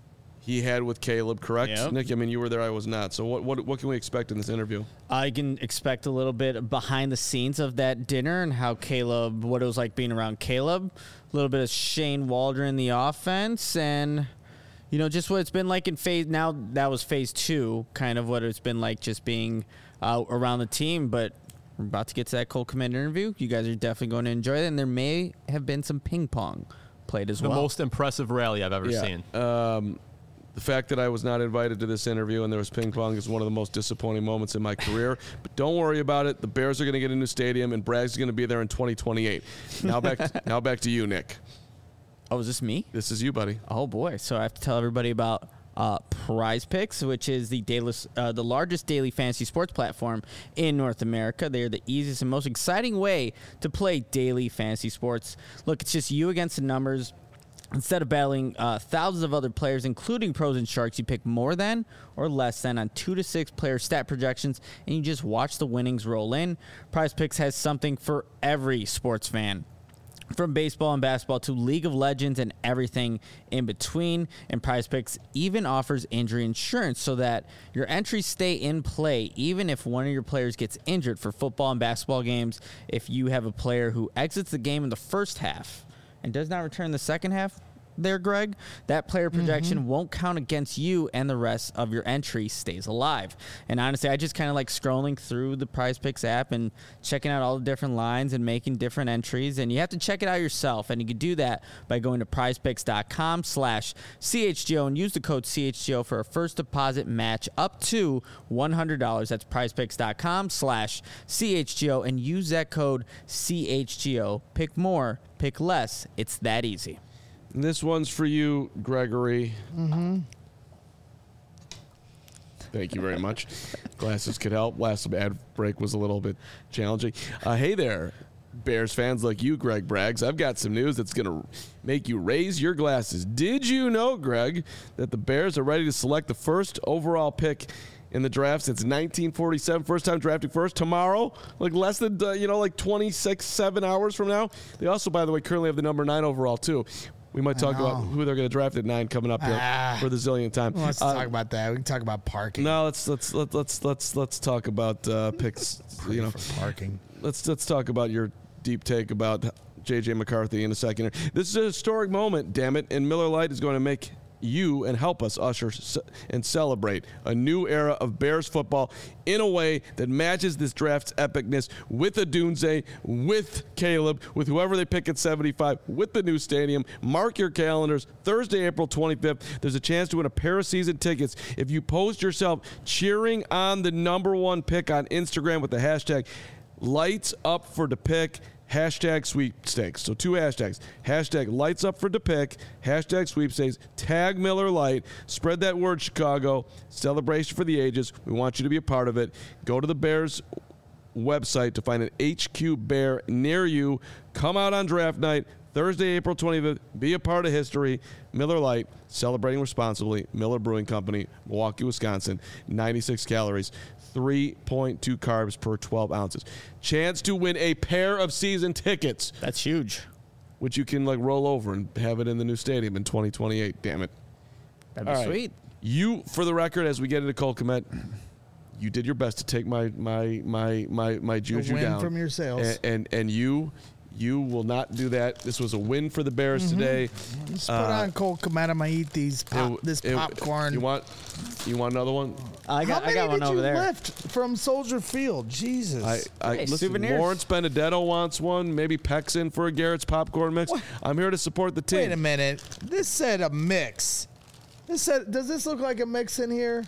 he had with Caleb, correct? Yep. Nick, I mean, you were there, I was not. So what, what, what can we expect in this interview? I can expect a little bit behind the scenes of that dinner and how Caleb, what it was like being around Caleb, a little bit of Shane Waldron in the offense, and, you know, just what it's been like in phase, now that was phase two, kind of what it's been like just being uh, around the team, but we're about to get to that Cole Kmet interview. You guys are definitely going to enjoy it, and there may have been some ping pong played as The well. most impressive rally I've ever Yeah. seen. Um, the fact that I was not invited to this interview and there was ping pong is one of the most disappointing moments in my career. But don't worry about it. The Bears are going to get a new stadium, and Bragg's going to be there in twenty twenty-eight. Now back, now back to you, Nick. Oh, is this me? This is you, buddy. Oh boy! So I have to tell everybody about uh, Prize Picks, which is the daily, uh, the largest daily fantasy sports platform in North America. They are the easiest and most exciting way to play daily fantasy sports. Look, it's just you against the numbers. Instead of battling uh, thousands of other players, including pros and sharks, you pick more than or less than on two to six player stat projections, and you just watch the winnings roll in. Prize Picks has something for every sports fan. From baseball and basketball to League of Legends and everything in between. And Prize Picks even offers injury insurance so that your entries stay in play even if one of your players gets injured. For football and basketball games, if you have a player who exits the game in the first half and does not return in the second half, there, Greg, that player projection mm-hmm. won't count against you, and the rest of your entry stays alive. And honestly, I just kind of like scrolling through the Prize Picks app and checking out all the different lines and making different entries. And you have to check it out yourself. And you can do that by going to prizepicks.com slash CHGO and use the code C H G O for a first deposit match up to one hundred dollars. That's prizepicks.com slash CHGO and use that code C H G O. Pick more, pick less. It's that easy. And this one's for you, Gregory. Mm-hmm. Thank you very much. Glasses could help. Last ad break was a little bit challenging. Uh, hey there, Bears fans like you, Greg Braggs. I've got some news that's going to make you raise your glasses. Did you know, Greg, that the Bears are ready to select the first overall pick in the draft since nineteen forty-seven? First time drafting first tomorrow, like less than, uh, you know, like twenty-six, seven hours from now. They also, by the way, currently have the number nine overall, too. We might talk about who they're going to draft at nine coming up here Ah. for the zillionth time. Well, let's Uh, talk about that. We can talk about parking. No, let's let's let's let's let's let's talk about uh, picks. You know, For parking. let's let's talk about your deep take about J J McCarthy in a second. This is a historic moment, damn it, and Miller Lite is going to make you and help us usher and celebrate a new era of Bears football in a way that matches this draft's epicness with a Dunze, with Caleb, with whoever they pick at seventy-five, with the new stadium. Mark your calendars. Thursday, April twenty-fifth, there's a chance to win a pair of season tickets if you post yourself cheering on the number one pick on Instagram with the hashtag Lights Up for the Pick. Hashtag sweepstakes. So two hashtags. Hashtag lights up for the pick. Hashtag sweepstakes. Tag Miller Lite. Spread that word, Chicago. Celebration for the ages. We want you to be a part of it. Go to the Bears website to find an H Q Bear near you. Come out on draft night, Thursday, April twenty-fifth. Be a part of history. Miller Lite, celebrating responsibly. Miller Brewing Company, Milwaukee, Wisconsin. ninety-six calories. three point two carbs per twelve ounces. Chance to win a pair of season tickets, That's huge. which you can like roll over and have it in the new stadium in twenty twenty-eight. Damn it. That'd be All right. sweet. You, for the record, as we get into Cole Kmet, you did your best to take my my my my my juju win down from your sales. and and, and you you will not do that. This was a win for the Bears Mm-hmm. today. Let's put Uh, on Cole Kmet. I'm gonna eat these pop, It- this it- popcorn. You want you want another one? I got, How many I got one did over you there. lift from Soldier Field? Jesus. I, I Hey, listen, souvenirs. Lawrence Benedetto wants one. Maybe Peck's in for a Garrett's popcorn mix. I'm here to support the team. Wait a minute. This said a mix. This said. Does this look like a mix in here?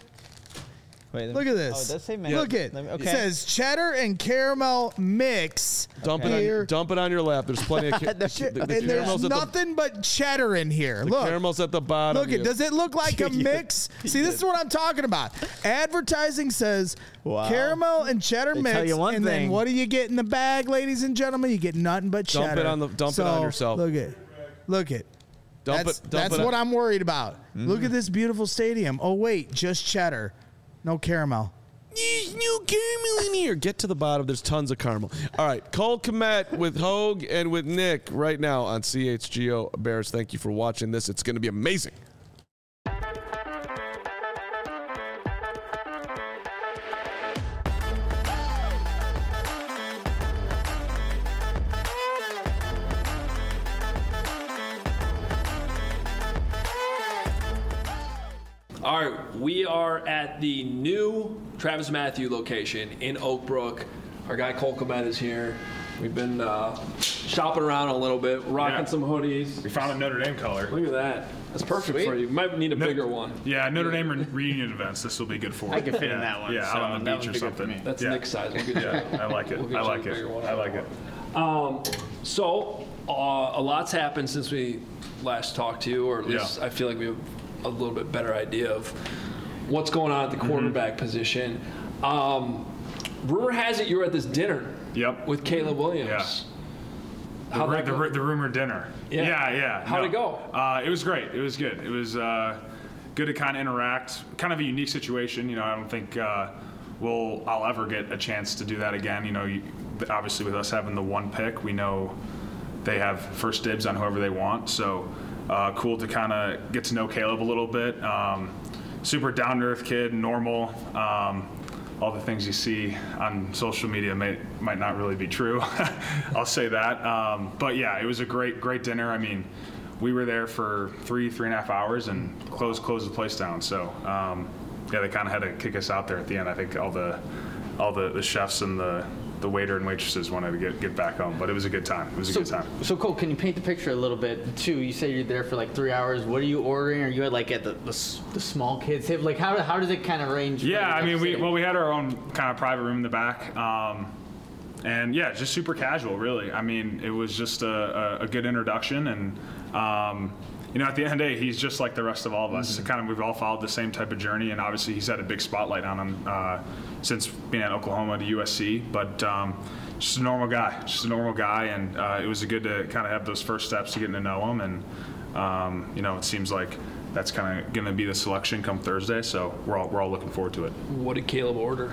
Wait, Look at this. Oh, it does say mix. Look at Let me- it. okay. It says cheddar and caramel mix. Dump it on Here. your, dump it on your lap. There's plenty of ca- the, Ch- the and there's caramels at the, nothing but cheddar in here. the Look. caramels at the bottom. Look it. You- Does it look like a mix? See, this is what I'm talking about. Advertising says Wow. caramel and cheddar They mix, tell you one and thing. then what do you get in the bag, ladies and gentlemen? You get nothing but Dump it cheddar. on the- dump it so, on yourself. Look at, look at. dump That's, it. Dump that's it what on, I'm worried about. Look at this beautiful stadium. Oh wait, just cheddar, no caramel. There's no caramel in here. Get to the bottom. There's tons of caramel. All right. Cole Kmet with Hogue and with Nick right now on C H G O Bears. Thank you for watching this. It's going to be amazing. All right, we are at the new Travis Matthew location in Oak Brook. Our guy Cole Komet is here. We've been uh, shopping around a little bit, rocking Yeah. some hoodies. We found a Notre Dame color. Look at that. That's perfect for you. You might need a No- bigger one. Yeah, Notre Dame re- reunion events. This will be good for. I could fit yeah. in that one. Yeah, so out on the that beach or one's bigger for something. me. That's yeah. Nick's size. We'll get you Yeah, I like it. We'll get I you like a it. bigger one. I like it. Um, so, uh, a lot's happened since we last talked to you, or at least Yeah. I feel like we have a little bit better idea of what's going on at the quarterback Mm-hmm. position. Um, rumor has it you were at this dinner Yep. with Caleb Williams. Yeah. The, How'd ru- that the, go? ru- the rumored dinner. Yeah. yeah. yeah. How'd No. it go? Uh, it was great. It was good. It was uh, good to kind of interact. Kind of a unique situation. You know, I don't think uh, we'll I'll ever get a chance to do that again. You know, you, obviously with us having the one pick, we know they have first dibs on whoever they want. So uh, cool to kind of get to know Caleb a little bit. Um, super down to earth kid, normal. Um, all the things you see on social media may, might not really be true. I'll say that. Um, but yeah, it was a great, great dinner. I mean, we were there for three, three and a half hours and closed, closed the place down. So um, yeah, they kind of had to kick us out there at the end. I think all the, all the, the chefs and the, the waiter and waitresses wanted to get, get back home, but it was a good time. It was a So, good time. so Cole, can you paint the picture a little bit too? You say you're there for like three hours. What are you ordering? Are you at like at the the, s- the small kids table? Like how how does it kind of range? for Yeah, you I guys mean, we sitting? well, we had our own kind of private room in the back, um, and yeah, just super casual, really. I mean, it was just a, a, a good introduction, and um, you know, at the end of the day, he's just like the rest of all of us. Kind of, we've all followed the same type of journey, and obviously, he's had a big spotlight on him uh, since being at Oklahoma to U S C, but. Um, Just a normal guy, just a normal guy, and uh, it was good to kind of have those first steps to getting to know him. And um, you know, it seems like that's kind of going to be the selection come Thursday. So we're all we're all looking forward to it. What did Caleb order?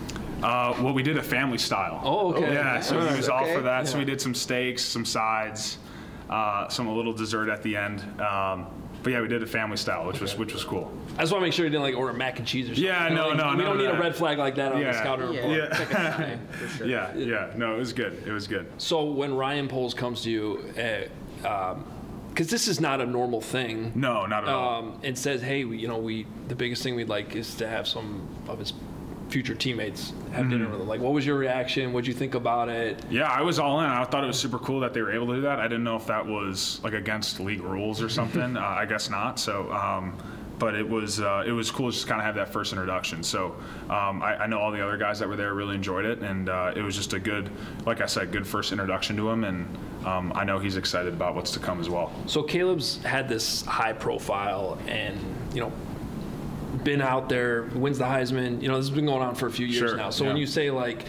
Uh, well, we did a family style. Oh, okay. Yeah, so he was all Okay. for that. So Yeah. we did some steaks, some sides, uh, some a little dessert at the end. Um, but yeah, we did a family style, which was which was cool. I just want to make sure you didn't like order mac and cheese or something. Yeah, no, Like, no, We none don't of need a that. red flag like that on the Yeah. scouting Yeah, report. it's like a sign, for sure. Yeah, yeah. No, it was good. It was good. So when Ryan Poles comes to you, because um, this is not a normal thing, No, not at all. um, and says, "Hey, we, you know, we the biggest thing we'd like is to have some of his future teammates have Mm-hmm. dinner with him." Like, what was your reaction? What'd you think about it? Yeah, I was all in. I thought it was super cool that they were able to do that. I didn't know if that was like against league rules or something. uh, I guess not. So, um, but it was uh, it was cool just to kind of have that first introduction. So um, I, I know all the other guys that were there really enjoyed it, and uh, it was just a good, like I said, good first introduction to him. And um, I know he's excited about what's to come as well. So Caleb's had this high profile, and you know, been out there, wins the Heisman. You know, this has been going on for a few years Sure, now. So when yeah. you say like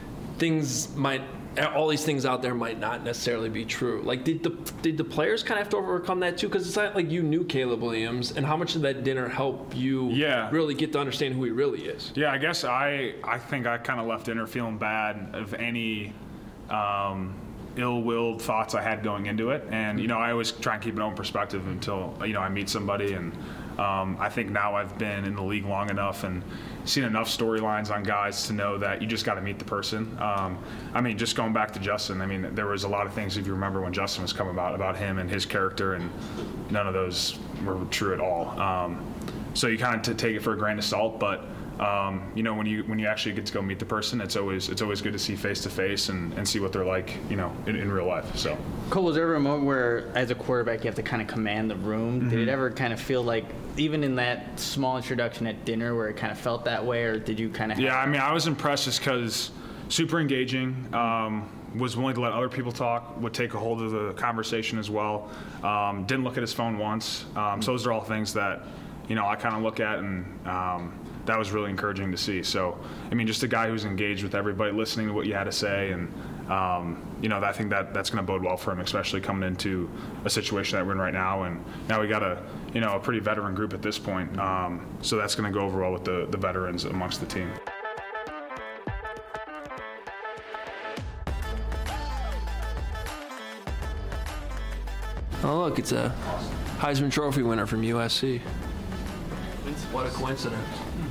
things might, all these things out there might not necessarily be true. Like, did the did the players kind of have to overcome that too? Because it's not like you knew Caleb Williams, and how much did that dinner help you Yeah. really get to understand who he really is? Yeah, I guess I I think I kind of left dinner feeling bad of any um, ill-willed thoughts I had going into it, and you know I always try and keep an open perspective until you know I meet somebody, and um, I think now I've been in the league long enough and seen enough storylines on guys to know that you just got to meet the person. Um, I mean, just going back to Justin, I mean there was a lot of things if you remember when Justin was coming about about him and his character, and none of those were true at all. Um, so you kind of t- take it for a grain of salt, but. Um, you know, when you when you actually get to go meet the person, it's always it's always good to see face to face and and see what they're like, you know, in, in real life. So. Cole, was there ever a moment where, as a quarterback, you have to kind of command the room? Mm-hmm. Did it ever kind of feel like, even in that small introduction at dinner, where it kind of felt that way, or did you kind of? Yeah, I mean, I was impressed just because super engaging. Um, was willing to let other people talk, would take a hold of the conversation as well. Um, didn't look at his phone once. Um, so those are all things that, you know, I kind of look at, and um, that was really encouraging to see. So, I mean, just a guy who's engaged with everybody, listening to what you had to say, and um, you know, I think that that's going to bode well for him, especially coming into a situation that we're in right now. And now we got a, you know, a pretty veteran group at this point. Um, so that's going to go over well with the the veterans amongst the team. Oh, look, it's a Heisman Trophy winner from U S C. What a coincidence.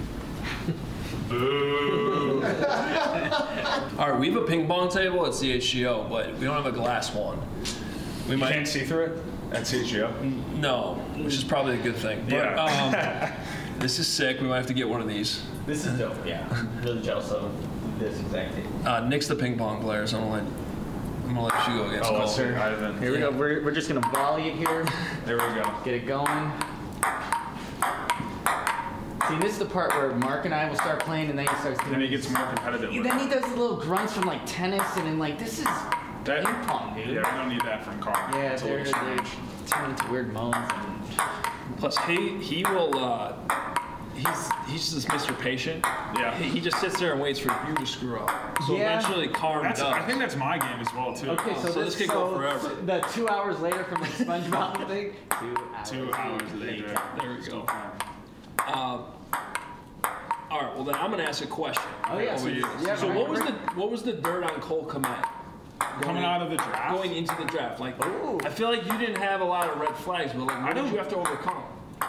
Boo. All right, we have a ping pong table at C H G O, but we don't have a glass one. We You might can't see through it at C H G O? no, which is probably a good thing. But, Yeah. um, This is sick. We might have to get one of these. This is dope. Yeah, I'm really jealous of this exact thing. Uh, Nick's the ping pong player, so I'm gonna let, I'm gonna let you go against Oh, Cole. let's hear Ivan. Here we go. We're, we're just gonna volley it here. There we go. Get it going. See, this is the part where Mark and I will start playing, and then he starts doing. Then he gets more competitive. with Then it. he does the little grunts from like tennis, and then like this is That- ping pong, dude. Yeah, we don't need that from Carl. Yeah, It's a they're, little they're strange. turning into weird moans. And Plus, he he will. Uh, he's he's just Mister Patient. Yeah. He, he just sits there and waits for you to screw up. So Yeah. eventually, Carm That's, does. I think that's my game as well too. okay, so, so this could go forever. The two hours later from the Sponge Mountain thing. Two hours. Two hours later. There we go. Um, all right. Well, then I'm gonna ask a question. Oh yeah. over So, you. yeah, So right, what was right. the what was the dirt on Cole Kmet? Coming out of the draft. Going into the draft, like Ooh. I feel like you didn't have a lot of red flags, but like what I did don't- you have to overcome?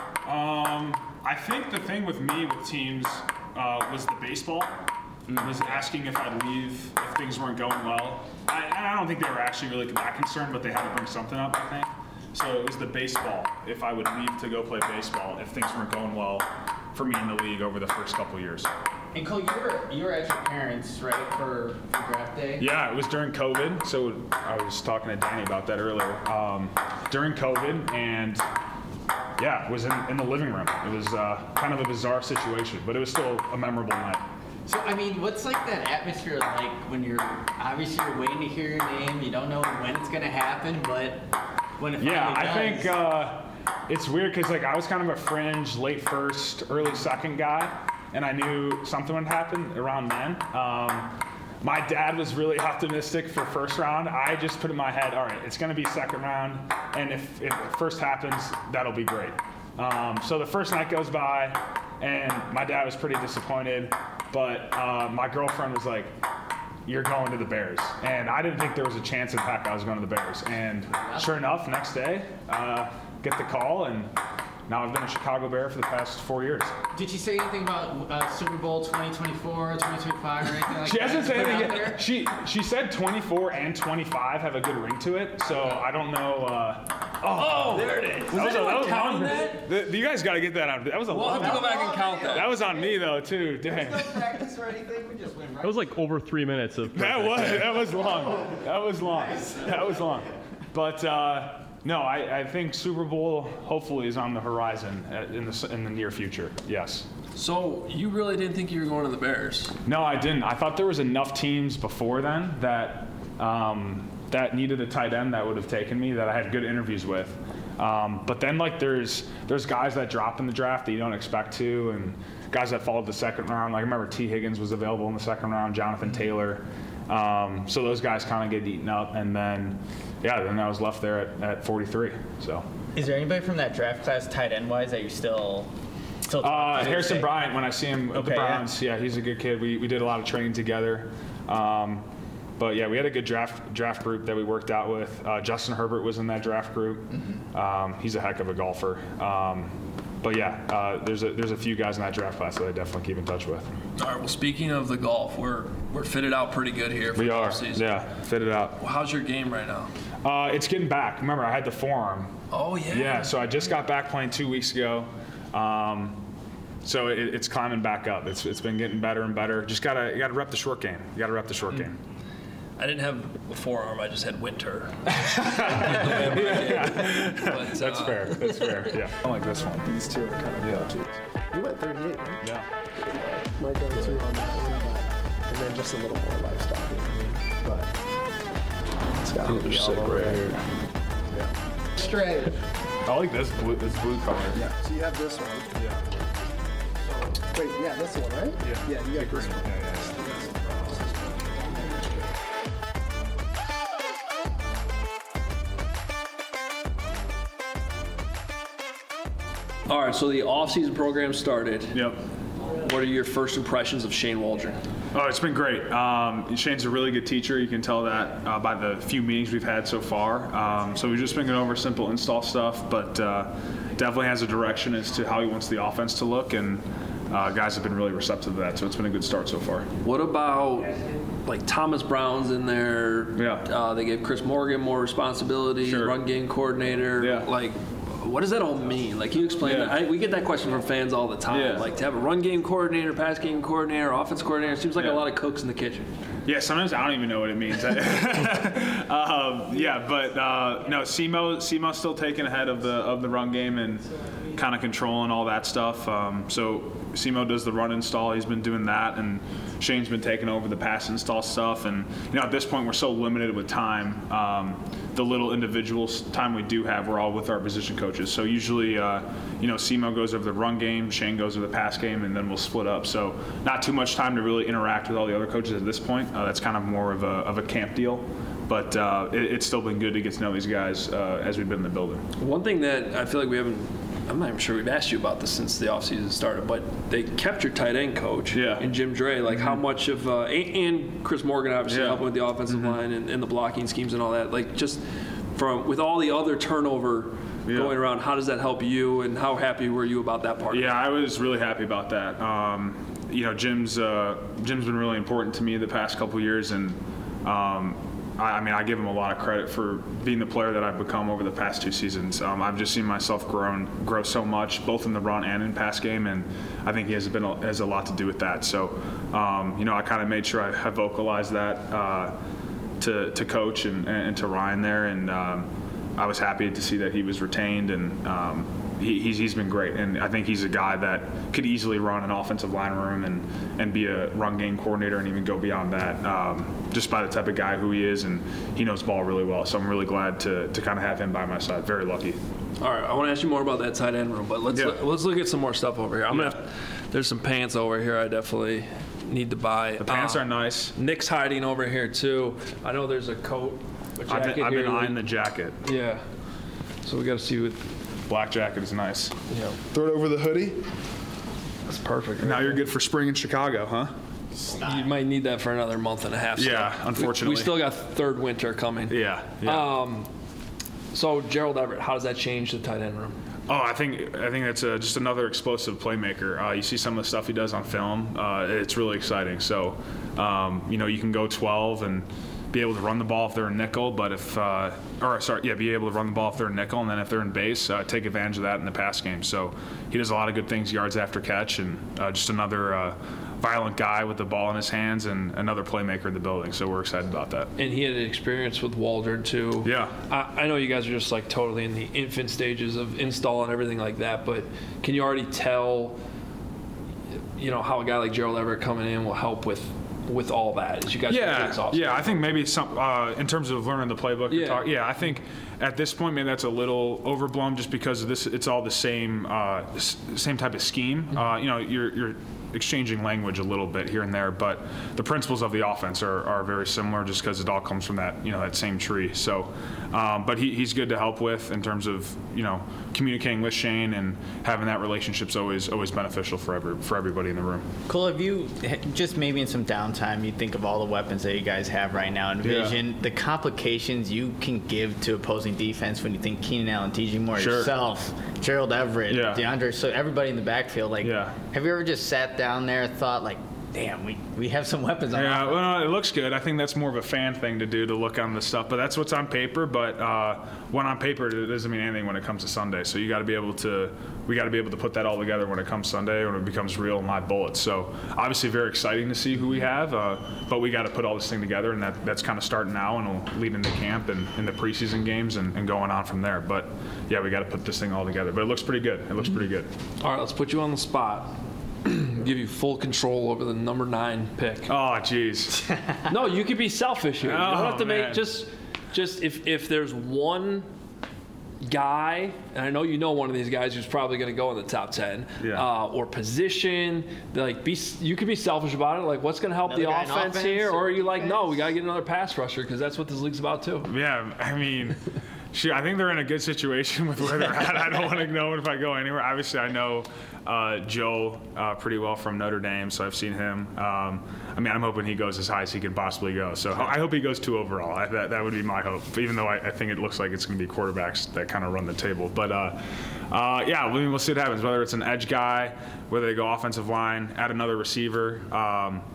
Um, I think the thing with me with teams uh, was the baseball. Was asking if I'd leave if things weren't going well. I, I don't think they were actually really that concerned, but they had to bring something up, I think. So it was the baseball. If I would leave to go play baseball if things weren't going well for me in the league over the first couple years. And Cole, you were you were at your parents, right, for, for draft day? Yeah, it was during COVID. So I was talking to Danny about that earlier. Um, during COVID, and yeah, it was in, in the living room. It was uh, kind of a bizarre situation, but it was still a memorable night. So I mean, what's like that atmosphere like when you're obviously you're waiting to hear your name, you don't know when it's gonna happen, but when it Yeah, finally I does, think uh, it's weird because like I was kind of a fringe late first, early second guy, and I knew something would happen around then. Um, my dad was really optimistic for first round. I just put in my head, all right, it's going to be second round, and if, if first happens, that'll be great. Um, so the first night goes by, and my dad was pretty disappointed, but uh, my girlfriend was like, you're going to the Bears. And I didn't think there was a chance in heck I was going to the Bears. And sure enough, next day, uh, get the call, and now I've been a Chicago Bear for the past four years. did she say anything about uh, Super Bowl twenty twenty-four, twenty twenty-five, or anything like She that? hasn't said Put it anything out yet. there? She she said twenty-four and twenty-five have a good ring to it, so I don't know. Uh, Oh, there it is. that was, a, that was counting long. that? The- you guys got to get that out. That was a We'll have long. to go back and count that. That was on me though too. Dang. practice or anything. We just went right. That was like over three minutes of. That was that was long. That was long. That was long. But uh, no, I, I think Super Bowl hopefully is on the horizon uh, in the in the near future. Yes. So you really didn't think you were going to the Bears? No, I didn't. I thought there was enough teams before then that um, that needed a tight end that would have taken me that I had good interviews with. Um, but then like there's there's guys that drop in the draft that you don't expect to, and guys that followed the second round. Like I remember T. Higgins was available in the second round, Jonathan Taylor. Um, so those guys kind of get eaten up, and then yeah, then I was left there at, at forty-three. So Is there anybody from that draft class, tight end wise, that you're still still? uh, talking to Harrison today? Bryant, when I see him at Okay, the yeah. Browns, yeah. he's a good kid. We we did a lot of training together. Um, But yeah, we had a good draft draft group that we worked out with. Uh, Justin Herbert was in that draft group. Um, he's a heck of a golfer. Um, but yeah, uh, there's a there's a few guys in that draft class that I definitely keep in touch with. All right. Well, speaking of the golf, we're we're fitted out pretty good here for We the are, offseason. yeah, fit it out. Well, how's your game right now? Uh, it's getting back. Remember, I had the forearm. Oh yeah. Yeah, so I just got back playing two weeks ago. Um, so it, it's climbing back up. It's it's been getting better and better. Just gotta you gotta rep the short game. You gotta rep the short Mm. game. I didn't have a forearm. I just had winter. But, That's uh, fair. That's fair. Yeah. I like this one. These two are kind of Yeah. go-tos. You went thirty-eight, right? Yeah. My go-to on that one, but, and then just a little more livestock. But it's got to be all over here. Yeah. Straight. I like this blue this blue color. Yeah. So you have this one. Yeah. Wait, yeah, that's the one, right? Yeah. Yeah, you got green. this one. Yeah, yeah. All right. So the off-season program started. Yep. What are your first impressions of Shane Waldron? Oh, it's been great. Um, Shane's a really good teacher. You can tell that uh, by the few meetings we've had so far. Um, so we've just been going over simple install stuff, but uh, definitely has a direction as to how he wants the offense to look, and uh, guys have been really receptive to that. So it's been a good start so far. What about like Thomas Brown's in there? Yeah. Uh, they gave Chris Morgan more responsibility. Sure. Run game coordinator. Yeah. Like, what does that all mean? Like, can you explain Yeah. that? I, we get that question from fans all the time. Yeah. Like, to have a run game coordinator, pass game coordinator, offense coordinator, it seems like Yeah. a lot of cooks in the kitchen. Yeah, sometimes I don't even know what it means. um, yeah, but uh, no, SEMO SEMO's still taking ahead of the of the run game and kind of controlling all that stuff. Um, so SEMO does the run install. He's been doing that, and Shane's been taking over the pass install stuff. And you know, at this point, we're so limited with time. Um, the little individual time we do have, we're all with our position coaches. So usually, uh, you know, SEMO goes over the run game, Shane goes over the pass game, and then we'll split up. So not too much time to really interact with all the other coaches at this point. Uh, that's kind of more of a, of a camp deal. But uh, it, it's still been good to get to know these guys uh, as we've been in the building. One thing that I feel like we haven't, I'm not even sure we've asked you about this since the offseason started, but they kept your tight end coach Yeah. and Jim Dre. Like, Mm-hmm. how much of, uh, and, and Chris Morgan obviously Yeah. helping with the offensive Mm-hmm. line and, and the blocking schemes and all that. Like, just from, with all the other turnover Yeah. going around, how does that help you, and how happy were you about that part? Yeah, I was really happy about that. Um, you know, Jim's uh, Jim's been really important to me the past couple years, and um, I, I mean, I give him a lot of credit for being the player that I've become over the past two seasons. Um, I've just seen myself grown, grow so much, both in the run and in pass game, and I think he has been a, has a lot to do with that. So, um, you know, I kind of made sure I, I vocalized that uh, to to coach and, and to Ryan there, and um, I was happy to see that he was retained, and um, he, he's, he's been great. And I think he's a guy that could easily run an offensive line room and, and be a run game coordinator and even go beyond that, um, just by the type of guy who he is, and he knows ball really well. So I'm really glad to, to kind of have him by my side. Very lucky. All right, I want to ask you more about that tight end room, but let's Yeah. look, let's look at some more stuff over here. I'm Yeah. gonna. There's some pants over here. I definitely need to buy. The pants Uh, are nice. Nick's hiding over here too. I know there's a coat, a I've jacket been, I've here. been eyeing the jacket. Yeah. So we got to see what. Black jacket is nice. Yeah. Throw it over the hoodie. That's perfect. Now you're good for spring in Chicago, huh? You might need that for another month and a half. still. Yeah, We- unfortunately. We, still got third winter coming. Yeah. yeah. Um. So Gerald Everett, how does that change the tight end room? Oh, I think I think that's uh just another explosive playmaker. Uh, you see some of the stuff he does on film. Uh, it's really exciting. So, um, you know, you can go twelve and be able to run the ball if they're in nickel, but if uh, or sorry, yeah, be able to run the ball if they're in nickel, and then if they're in base, uh, take advantage of that in the pass game. So he does a lot of good things, yards after catch, and uh, just another uh, violent guy with the ball in his hands and another playmaker in the building. So we're excited about that. And he had an experience with Waldron too. Yeah. I, I know you guys are just like totally in the infant stages of install and everything like that, but can you already tell, you know, how a guy like Gerald Everett coming in will help with with all that as you guys Yeah, get this off? yeah. I think maybe some uh, in terms of learning the playbook. Yeah. You're talk, yeah. I think at this point maybe that's a little overblown just because of this. It's all the same uh, s- same type of scheme. Mm-hmm. Uh, you know, you're you're exchanging language a little bit here and there, but the principles of the offense are, are very similar just because it all comes from that you know that same tree. So, um, but he, he's good to help with in terms of you know communicating with Shane, and having that relationship's always always beneficial for every for everybody in the room. Cole, if you just maybe in some downtime, you think of all the weapons that you guys have right now, envision the complications you can give to opposing defense when you think Keenan Allen, D J Moore, Sure. yourself, Gerald Everett, Yeah. DeAndre, so everybody in the backfield. Like, Yeah. have you ever just sat down there and thought, like, damn, we, we have some weapons on Yeah, offense? well, it looks good. I think that's more of a fan thing to do, to look on the stuff. But that's what's on paper. But uh, when on paper, it doesn't mean anything when it comes to Sunday. So you got to be able to, we got to be able to put that all together when it comes Sunday, when it becomes real and live bullets. So obviously, very exciting to see who we have. Uh, but we got to put all this thing together, and that, that's kind of starting now, and will lead into camp and in the preseason games and, and going on from there. But yeah, we got to put this thing all together. But it looks pretty good. It looks pretty good. All right, let's put you on the spot. Give you full control over the number nine pick. Oh, jeez. No, you could be selfish here. You don't Oh, have to man. make just just if if there's one guy, and I know you know one of these guys who's probably going to go in the top ten, Yeah. uh, or position, like be you could be selfish about it. Like, what's going to help Another the guy in offense, offense here, or or are you like, no, defense? we got to get another pass rusher because that's what this league's about too. Yeah, I mean, shoot, I think they're in a good situation with where they're at. I don't want to know if I go anywhere. Obviously, I know uh, Joe uh, pretty well from Notre Dame, so I've seen him. Um, I mean, I'm hoping he goes as high as he can possibly go. So I hope he goes two overall. I, that, that would be my hope, even though I, I think it looks like it's going to be quarterbacks that kind of run the table. But, uh, uh, yeah, I mean, we'll see what happens, whether it's an edge guy, whether they go offensive line, add another receiver. Um,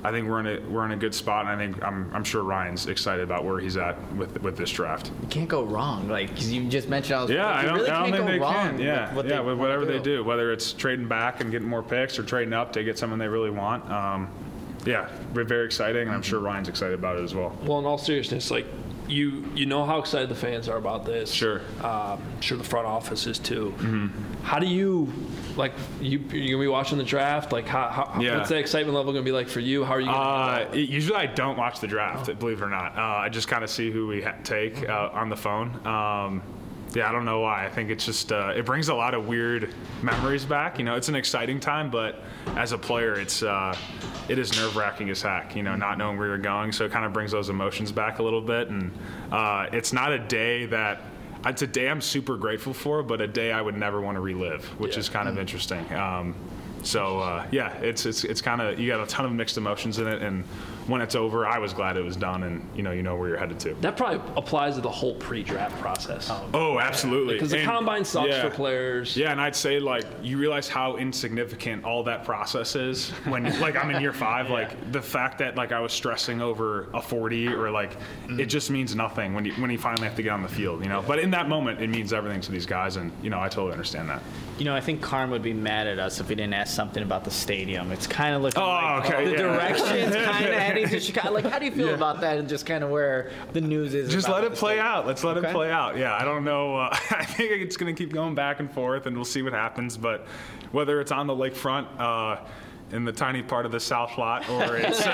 I think we're in a we're in a good spot, and I think I'm I'm sure Ryan's excited about where he's at with with this draft. You can't go wrong. Like, because you just mentioned all those Yeah, I don't, really I don't can't think go they wrong can. Yeah, with what yeah, they with whatever do. they do, whether it's trading back and getting more picks or trading up to get someone they really want. Um, yeah, we're very exciting, and I'm sure Ryan's excited about it as well. Well, in all seriousness, like you, you know how excited the fans are about this. Sure. Um, I'm sure the front office is too. Mm-hmm. How do you, like, you you're gonna be watching the draft? Like, how, how Yeah. what's the excitement level gonna be like for you? How are you? Gonna Uh, usually I don't watch the draft, believe it or not. Uh, I just kind of see who we ha- take uh, on the phone. Um, yeah, I don't know why. I think it's just uh, it brings a lot of weird memories back. You know, it's an exciting time, but as a player, it's uh, it is nerve wracking as heck. You know, not knowing where you're going, so it kind of brings those emotions back a little bit. And uh, it's not a day that. It's a day I'm super grateful for, but a day I would never want to relive, which Yeah. is kind of interesting. Um, so uh, yeah, it's it's it's kind of you got a ton of mixed emotions in it, and when it's over, I was glad it was done, and you know you know where you're headed to. That probably applies to the whole pre-draft process. Oh, absolutely. Because the And- combine sucks yeah. for players. Yeah, and I'd say like you realize how insignificant all that process is when like I'm in year five. Like the fact that like I was stressing over a forty or like it just means nothing when you when you finally have to get on the field, you know. But in that moment, it means everything to these guys, and you know I totally understand that. You know, I think Carm would be mad at us if we didn't ask something about the stadium. It's kind of looking Oh, like okay, the yeah. direction's kind of heading to Chicago. Like, how do you feel Yeah. about that and just kind of where the news is? Just about let it the play stadium? out. Let's let Okay. it play out. Yeah, I don't know. Uh, I think it's going to keep going back and forth, and we'll see what happens. But whether it's on the lakefront, uh, in the tiny part of the south lot, or it's,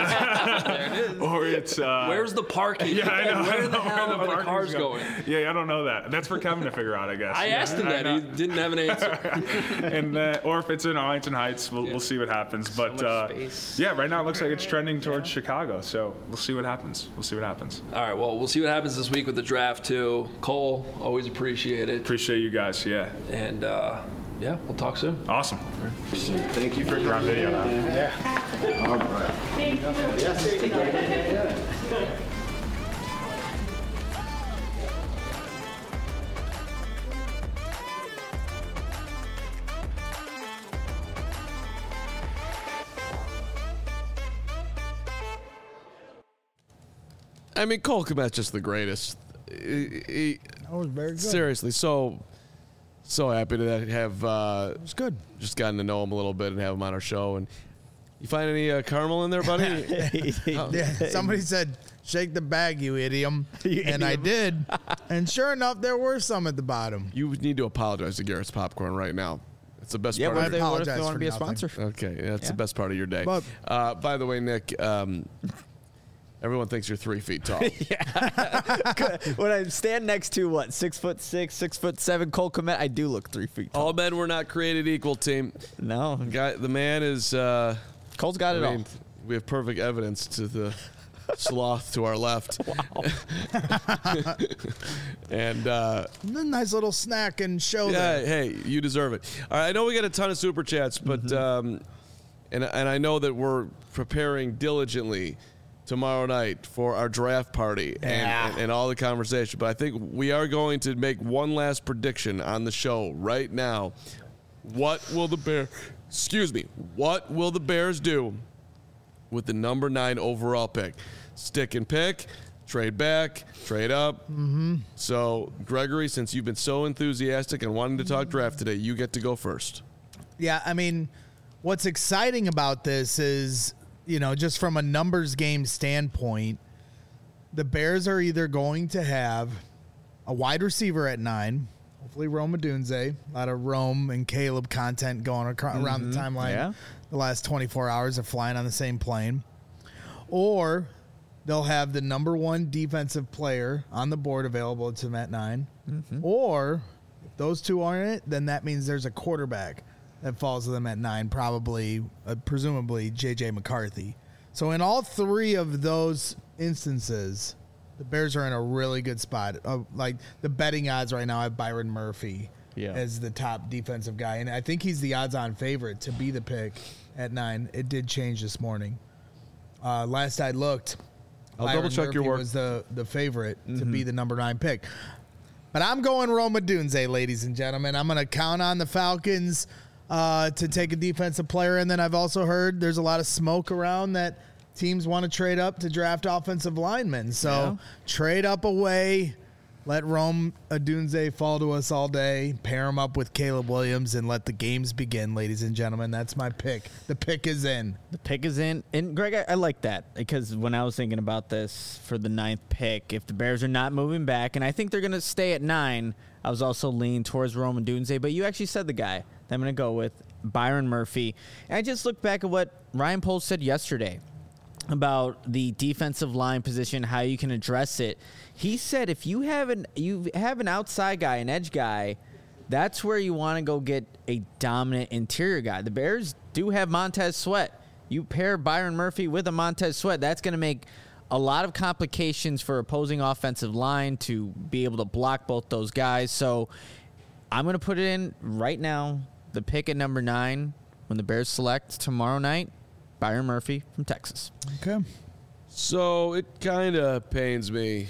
uh, or it's. Uh, Where's the parking? Yeah, I know. I Where don't the know hell where are the parking's cars going? Yeah, I don't know that. That's for Kevin to figure out, I guess. I asked him I that. He know. didn't have an answer. and uh, or if it's in Arlington Heights, we'll, we'll see what happens. But much uh, space. yeah, right now it looks like it's trending towards Chicago. So we'll see what happens. We'll see what happens. All right, well, we'll see what happens this week with the draft, too. Cole, always appreciate it. Appreciate you guys. Yeah, And, uh, yeah, we'll talk soon. awesome. Thank you for We're on video now. All right. I mean, Cole Kmet's just the greatest. He- he- That was very good. seriously, so so happy to have uh, It was good. just gotten to know him a little bit and have him on our show. And you find any uh, caramel in there, buddy? Yeah, somebody said, "Shake the bag, you idiot," and I did. And sure enough, there were some at the bottom. You need to apologize to Garrett's Popcorn right now. It's the best Yeah, part what of if your they, what if they apologize want to for be a nothing. sponsor? Okay, that's Yeah. the best part of your day. But- uh, by the way, Nick, um, everyone thinks you're three feet tall. When I stand next to what six foot six, six foot seven Cole Kmet, I do look three feet tall. All men were not created equal, team. No, Guy, the man is. Uh, Cole's got it I all. mean, we have perfect evidence to the sloth to our left. Wow. and uh, Nice little snack and show yeah, there. hey, you deserve it. All right, I know we got a ton of super chats, but Mm-hmm. um, and and I know that we're preparing diligently tomorrow night for our draft party and, Yeah. and, and all the conversation. But I think we are going to make one last prediction on the show right now. What will the Bears? Excuse me. What will the Bears do with the number nine overall pick? Stick and pick, trade back, trade up. Mm-hmm. So, Gregory, since you've been so enthusiastic and wanting to talk draft today, you get to go first. Yeah, I mean, what's exciting about this is, you know, just from a numbers game standpoint, the Bears are either going to have a wide receiver at nine, hopefully Rome Odunze, a lot of Rome and Caleb content going across, around the timeline Yeah. the last twenty-four hours of flying on the same plane, or they'll have the number one defensive player on the board available to them at nine, or if those two aren't it, then that means there's a quarterback that falls to them at nine, probably, uh, presumably, J J McCarthy. So in all three of those instances, the Bears are in a really good spot. Uh, like the betting odds right now have Byron Murphy Yeah. as the top defensive guy, and I think he's the odds-on favorite to be the pick at nine. It did change this morning. Uh, last I looked, I'll Byron double-check your Murphy work. was the, the favorite to be the number nine pick. But I'm going Rome Odunze, ladies and gentlemen. I'm going to count on the Falcons uh, to take a defensive player. And then I've also heard there's a lot of smoke around that teams want to trade up to draft offensive linemen. So Yeah. trade up away. Let Rome Odunze fall to us all day. Pair him up with Caleb Williams and let the games begin, ladies and gentlemen. That's my pick. The pick is in. The pick is in. And, Greg, I, I like that because when I was thinking about this for the ninth pick, if the Bears are not moving back, and I think they're going to stay at nine, I was also leaning towards Roman Dunze. But you actually said the guy that I'm going to go with, Byron Murphy. And I just looked back at what Ryan Poles said yesterday about the defensive line position, how you can address it. He said if you have an you have an outside guy, an edge guy, that's where you want to go get a dominant interior guy. The Bears do have Montez Sweat. You pair Byron Murphy with a Montez Sweat, that's going to make a lot of complications for opposing offensive line to be able to block both those guys. So I'm going to put it in right now, the pick at number nine, when the Bears select tomorrow night, Byron Murphy from Texas. Okay. So it kind of pains me.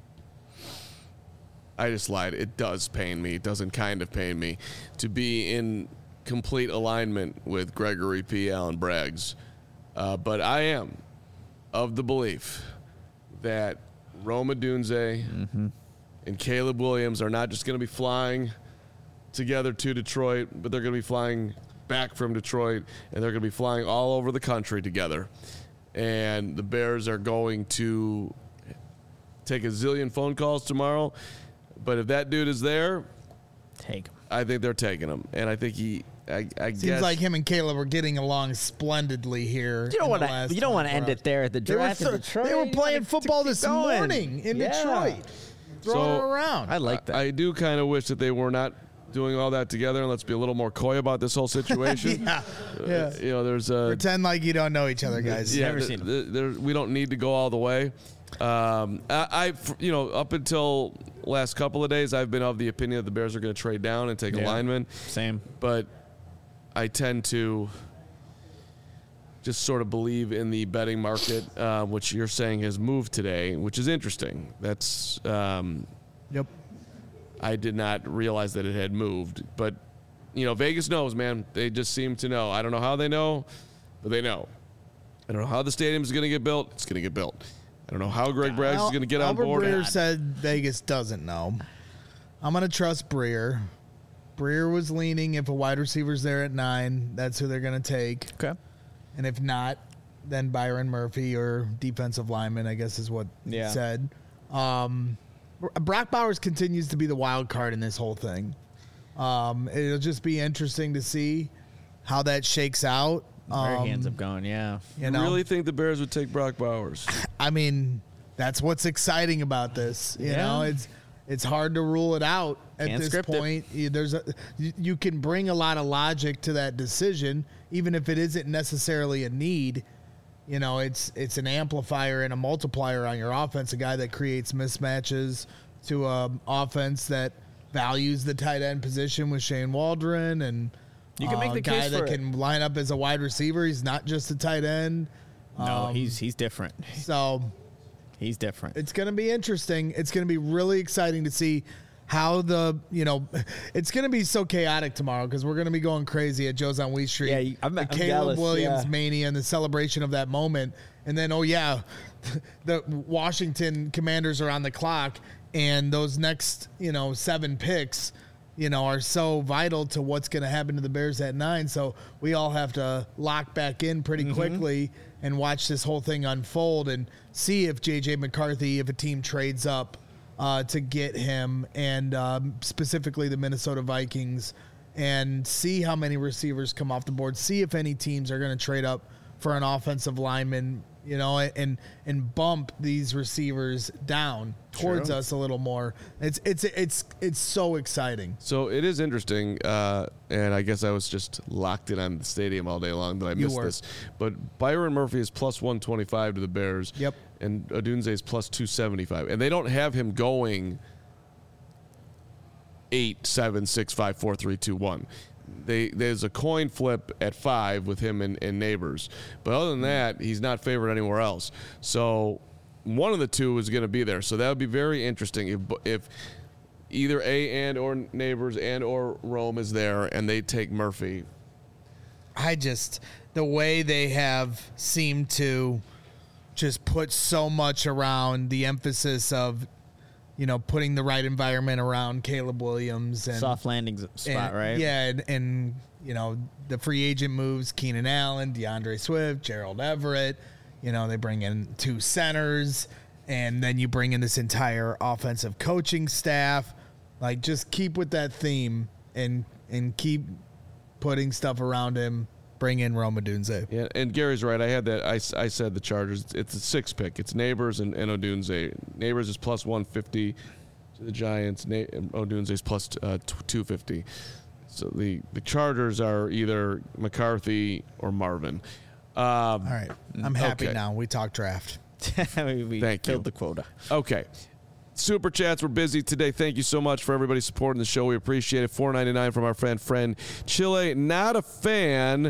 I just lied. It does pain me. It doesn't kind of pain me to be in complete alignment with Gregory P. Allen Braggs. Uh, but I am of the belief that Rome Odunze Mm-hmm. and Caleb Williams are not just going to be flying together to Detroit, but they're going to be flying back from Detroit, and they're going to be flying all over the country together. And the Bears are going to take a zillion phone calls tomorrow. But if that dude is there, Take him. I think they're taking him. And I think he, I, I Seems guess. like him and Caleb are getting along splendidly here. You don't in want the to. last You don't want to end twenty-four it there at the hours. They were, draft in so- Detroit. they were You playing wanna football keep this going. morning in Yeah. Detroit. Throwing it So, around. I like that. I do kind of wish that they were not doing all that together, and let's be a little more coy about this whole situation. yeah. yeah. You know, there's a. Pretend like you don't know each other, guys. Yeah, Never th- seen th- there, we don't need to go all the way. Um, I, I, you know, up until last couple of days, I've been of the opinion that the Bears are going to trade down and take a Yeah. lineman. Same. But I tend to just sort of believe in the betting market, uh, which you're saying has moved today, which is interesting. That's um, Yep. I did not realize that it had moved, but you know, Vegas knows, man. They just seem to know. I don't know how they know, but they know. I don't know how the stadium is going to get built. It's going to get built. I don't know how Greg Braggs is going to get on Albert board. Breer said Vegas doesn't know. I'm going to trust Breer. Breer was leaning if a wide receiver's there at nine, that's who they're going to take. Okay. And if not, then Byron Murphy or defensive lineman, I guess is what Yeah. he said. Um, Brock Bowers continues to be the wild card in this whole thing. Um, it'll just be interesting to see how that shakes out. Where Um, he ends up going, yeah. You You know, really think the Bears would take Brock Bowers? I mean, that's what's exciting about this. You Yeah. know, it's it's hard to rule it out at Can't this script it. point. You- There's a you, you can bring a lot of logic to that decision, even if it isn't necessarily a need. You know, it's it's an amplifier and a multiplier on your offense. A guy that creates mismatches to an offense that values the tight end position with Shane Waldron, and You can make uh, the a guy case that for it. can line up as a wide receiver. He's not just a tight end. No, Um, he's he's different. So He's different. it's going to be interesting. It's going to be really exciting to see how the, you know, it's going to be so chaotic tomorrow because we're going to be going crazy at Joe's on Wheat Street. Yeah, you- I'm- the I'm Caleb jealous, Williams yeah. mania and the celebration of that moment. And then, oh, yeah, the Washington Commanders are on the clock, and those next, you know, seven picks, you know, are so vital to what's going to happen to the Bears at nine. So we all have to lock back in pretty Mm-hmm. quickly and watch this whole thing unfold and see if J J McCarthy, if a team trades up uh, to get him, and um, specifically the Minnesota Vikings, and see how many receivers come off the board. See if any teams are going to trade up for an offensive lineman, you know, and and bump these receivers down towards True. us a little more. It's it's it's it's so exciting. So it is interesting, uh, and I guess I was just locked in on the stadium all day long that I You missed were. this. But Byron Murphy is plus one twenty-five to the Bears. Yep. And Odunze is plus two seventy-five. And they don't have him going eight, seven, six, five, four, three, two, one. They, there's a coin flip at five with him and, and Neighbors. But other than that, he's not favored anywhere else. So one of the two is going to be there. So that would be very interesting if if either A and or Neighbors and or Rome is there and they take Murphy. I just the way they have seemed to just put so much around the emphasis of, you know, putting the right environment around Caleb Williams and Soft landing spot, and, right? Yeah, and, and you know the free agent moves: Keenan Allen, DeAndre Swift, Gerald Everett. You know, they bring in two centers, and then you bring in this entire offensive coaching staff. Like, just keep with that theme and and keep putting stuff around him. Bring in Rome Odunze. Yeah, and Gary's right. I had that. I, I said the Chargers. It's a six pick. It's Neighbors and, and Odunze. Neighbors is plus one fifty to the Giants. Na- Odunze is plus uh, two fifty. So the, the Chargers are either McCarthy or Marvin. Um, All right, I'm happy okay. now. We talked draft. we we Thank filled you. the quota. Okay. Super chats were busy today. Thank you so much for everybody supporting the show. We appreciate it. four ninety-nine from our friend friend Chile. Not a fan.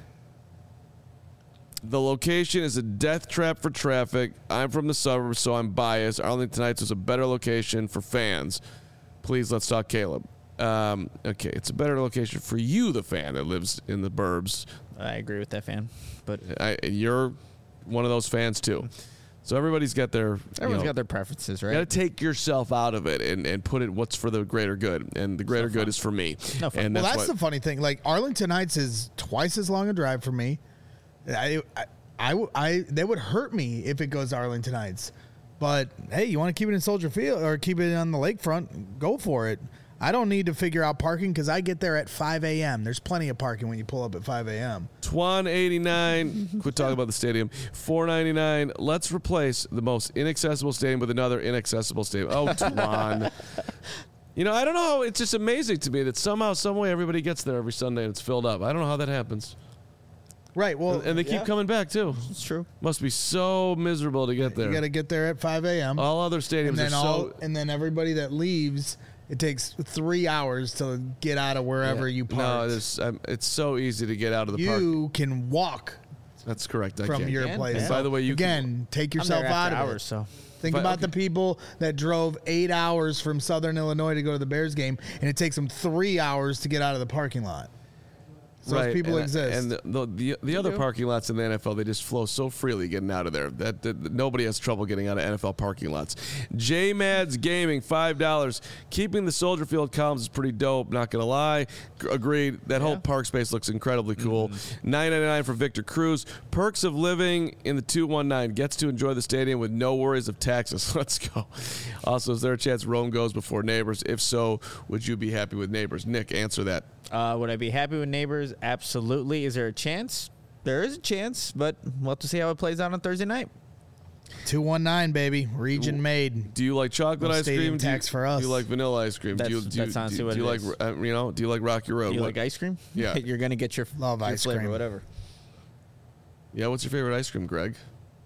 The location is a death trap for traffic. I'm from the suburbs, so I'm biased. Arlington Heights was a better location for fans. Please, let's talk Caleb. Um, okay, it's a better location for you, the fan that lives in the burbs. I agree with that, fan. But I, you're one of those fans too. So everybody's got their everyone's you know, got their preferences, right? You got to take yourself out of it and, and put it what's for the greater good. And the greater good is for me. No fun. And Well, that's, that's what, the funny thing. Like, Arlington Heights is twice as long a drive for me. I, I, I, I they would hurt me if it goes to Arlington Heights. But hey, you want to keep it in Soldier Field or keep it on the lakefront? Go for it. I don't need to figure out parking because I get there at five a.m. There's plenty of parking when you pull up at five a.m. Twan eighty-nine. Quit talking about the stadium. four ninety-nine. Let's replace the most inaccessible stadium with another inaccessible stadium. Oh, Twan. You know, I don't know. It's just amazing to me that somehow, some way, everybody gets there every Sunday and it's filled up. I don't know how that happens. Right. Well, And they keep yeah. coming back too. It's true. Must be so miserable to get there. you got to get there at five a.m. All other stadiums and then are all, so. and then everybody that leaves, it takes three hours to get out of wherever you park. No, it's, um, it's so easy to get out of the park. you can walk That's correct. I from can. your can, place. yeah. By the way, you can- again take I'm yourself there out after of hours, it. so Think But- about okay. the people that drove eight hours from Southern Illinois to go to the Bears game, and it takes them three hours to get out of the parking lot. So those people and, exist. And the the, the, the other parking lots in the N F L, they just flow so freely getting out of there that, that, that nobody has trouble getting out of N F L parking lots. J Mads Gaming, five dollars. Keeping the Soldier Field columns is pretty dope, not going to lie. G- agreed. That whole park space looks incredibly cool. nine ninety-nine for Victor Cruz. Perks of living in the two one nine. Gets to enjoy the stadium with no worries of taxes. Let's go. Also, is there a chance Rome goes before Neighbors? If so, would you be happy with Neighbors? Nick, answer that. Uh, would I be happy with Neighbors? Absolutely. Is there a chance? There is a chance, but we'll have to see how it plays out on Thursday night. two one nine, baby. Region made. Do you like chocolate No ice stadium cream? Do you- tax for us. Do you like vanilla ice cream? do you, That's- do you, that's honestly do, what do you it like is. uh, you know? Do you like Rocky Road? Do you What- like ice cream? Yeah. You're going to get your, Love your ice flavor, cream. whatever. Yeah. What's your favorite ice cream, Greg?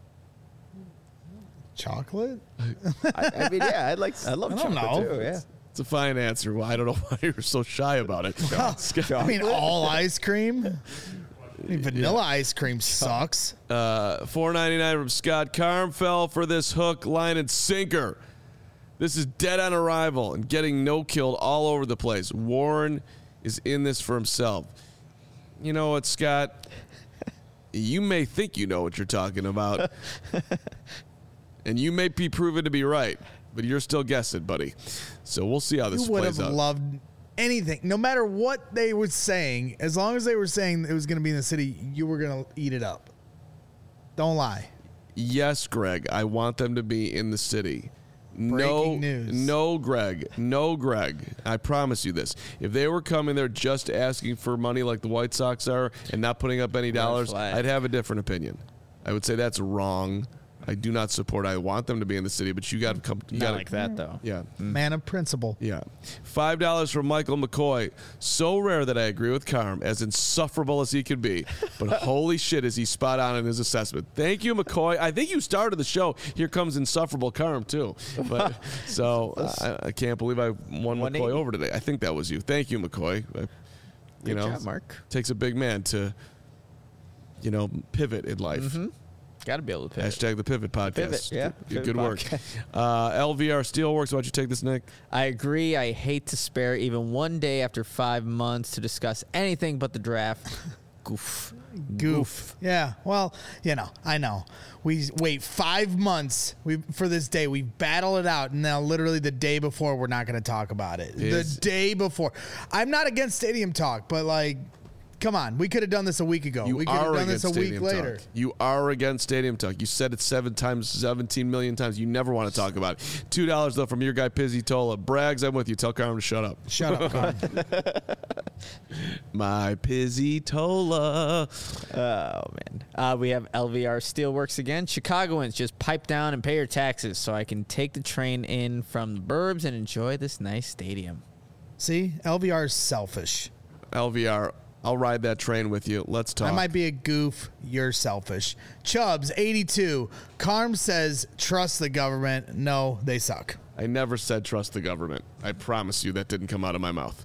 Chocolate? I, I mean, yeah, I'd like. I love I don't chocolate know. too. Yeah. It's a fine answer. Well, I don't know why you're so shy about it. I mean, all ice cream? I mean, vanilla ice cream sucks. Uh, four ninety-nine from Scott Carm fell for this hook, line, and sinker. This is dead on arrival and getting no killed all over the place. Warren is in this for himself. You know what, Scott? You may think you know what you're talking about, and you may be proven to be right, but you're still guessing, buddy. So we'll see how this You would plays have out. loved anything, no matter what they were saying, as long as they were saying it was going to be in the city, you were going to eat it up. Don't lie. Yes, Greg. I want them to be in the city. No, Breaking news. no, Greg. No, Greg. I promise you this. If they were coming there just asking for money like the White Sox are and not putting up any dollars, flag. I'd have a different opinion. I would say that's wrong. I do not support. I want them to be in the city, but you got to come. You Not gotta, like that though. Yeah. Man of principle. Yeah. Five dollars from Michael McCoy. So rare that I agree with Carm, as insufferable as he could be. But holy shit, is he spot on in his assessment. Thank you, McCoy. I think you started the show. Here comes insufferable Carm, too. But so I, I can't believe I won one McCoy eighty. over today. I think that was you. Thank you, McCoy. I, you Good know, job, Mark. takes a big man to, you know, pivot in life. Mm-hmm. Got to be able to pivot. Hashtag the Pivot Podcast. Pivot, yeah. Good, Pivot good work. podcast. Uh, L V R Steelworks. Why don't you take this, Nick? I agree. I hate to spare even one day after five months to discuss anything but the draft. Goof. Goof. Yeah. Well, you know, I know. We wait five months we for this day. We battle it out, and now literally the day before, we're not going to talk about it. Is- the day before. I'm not against stadium talk, but like, come on, we could have done this a week ago. You we could have are done this against a week stadium later. talk. You are against stadium talk. You said it seven times, seventeen million times. You never want to talk about it. Two dollars though from your guy Pizzy Tola. Braggs, I'm with you. Tell Carmen to shut up. Shut up, Carmen. My Pizzy Tola. Oh, man. Uh, we have L V R Steelworks again. Chicagoans, just pipe down and pay your taxes so I can take the train in from the burbs and enjoy this nice stadium. See, L V R is selfish. L V R. I'll ride that train with you. Let's talk. I might be a goof. You're selfish. Chubbs, eighty-two. Carm says, trust the government. No, they suck. I never said trust the government. I promise you that didn't come out of my mouth.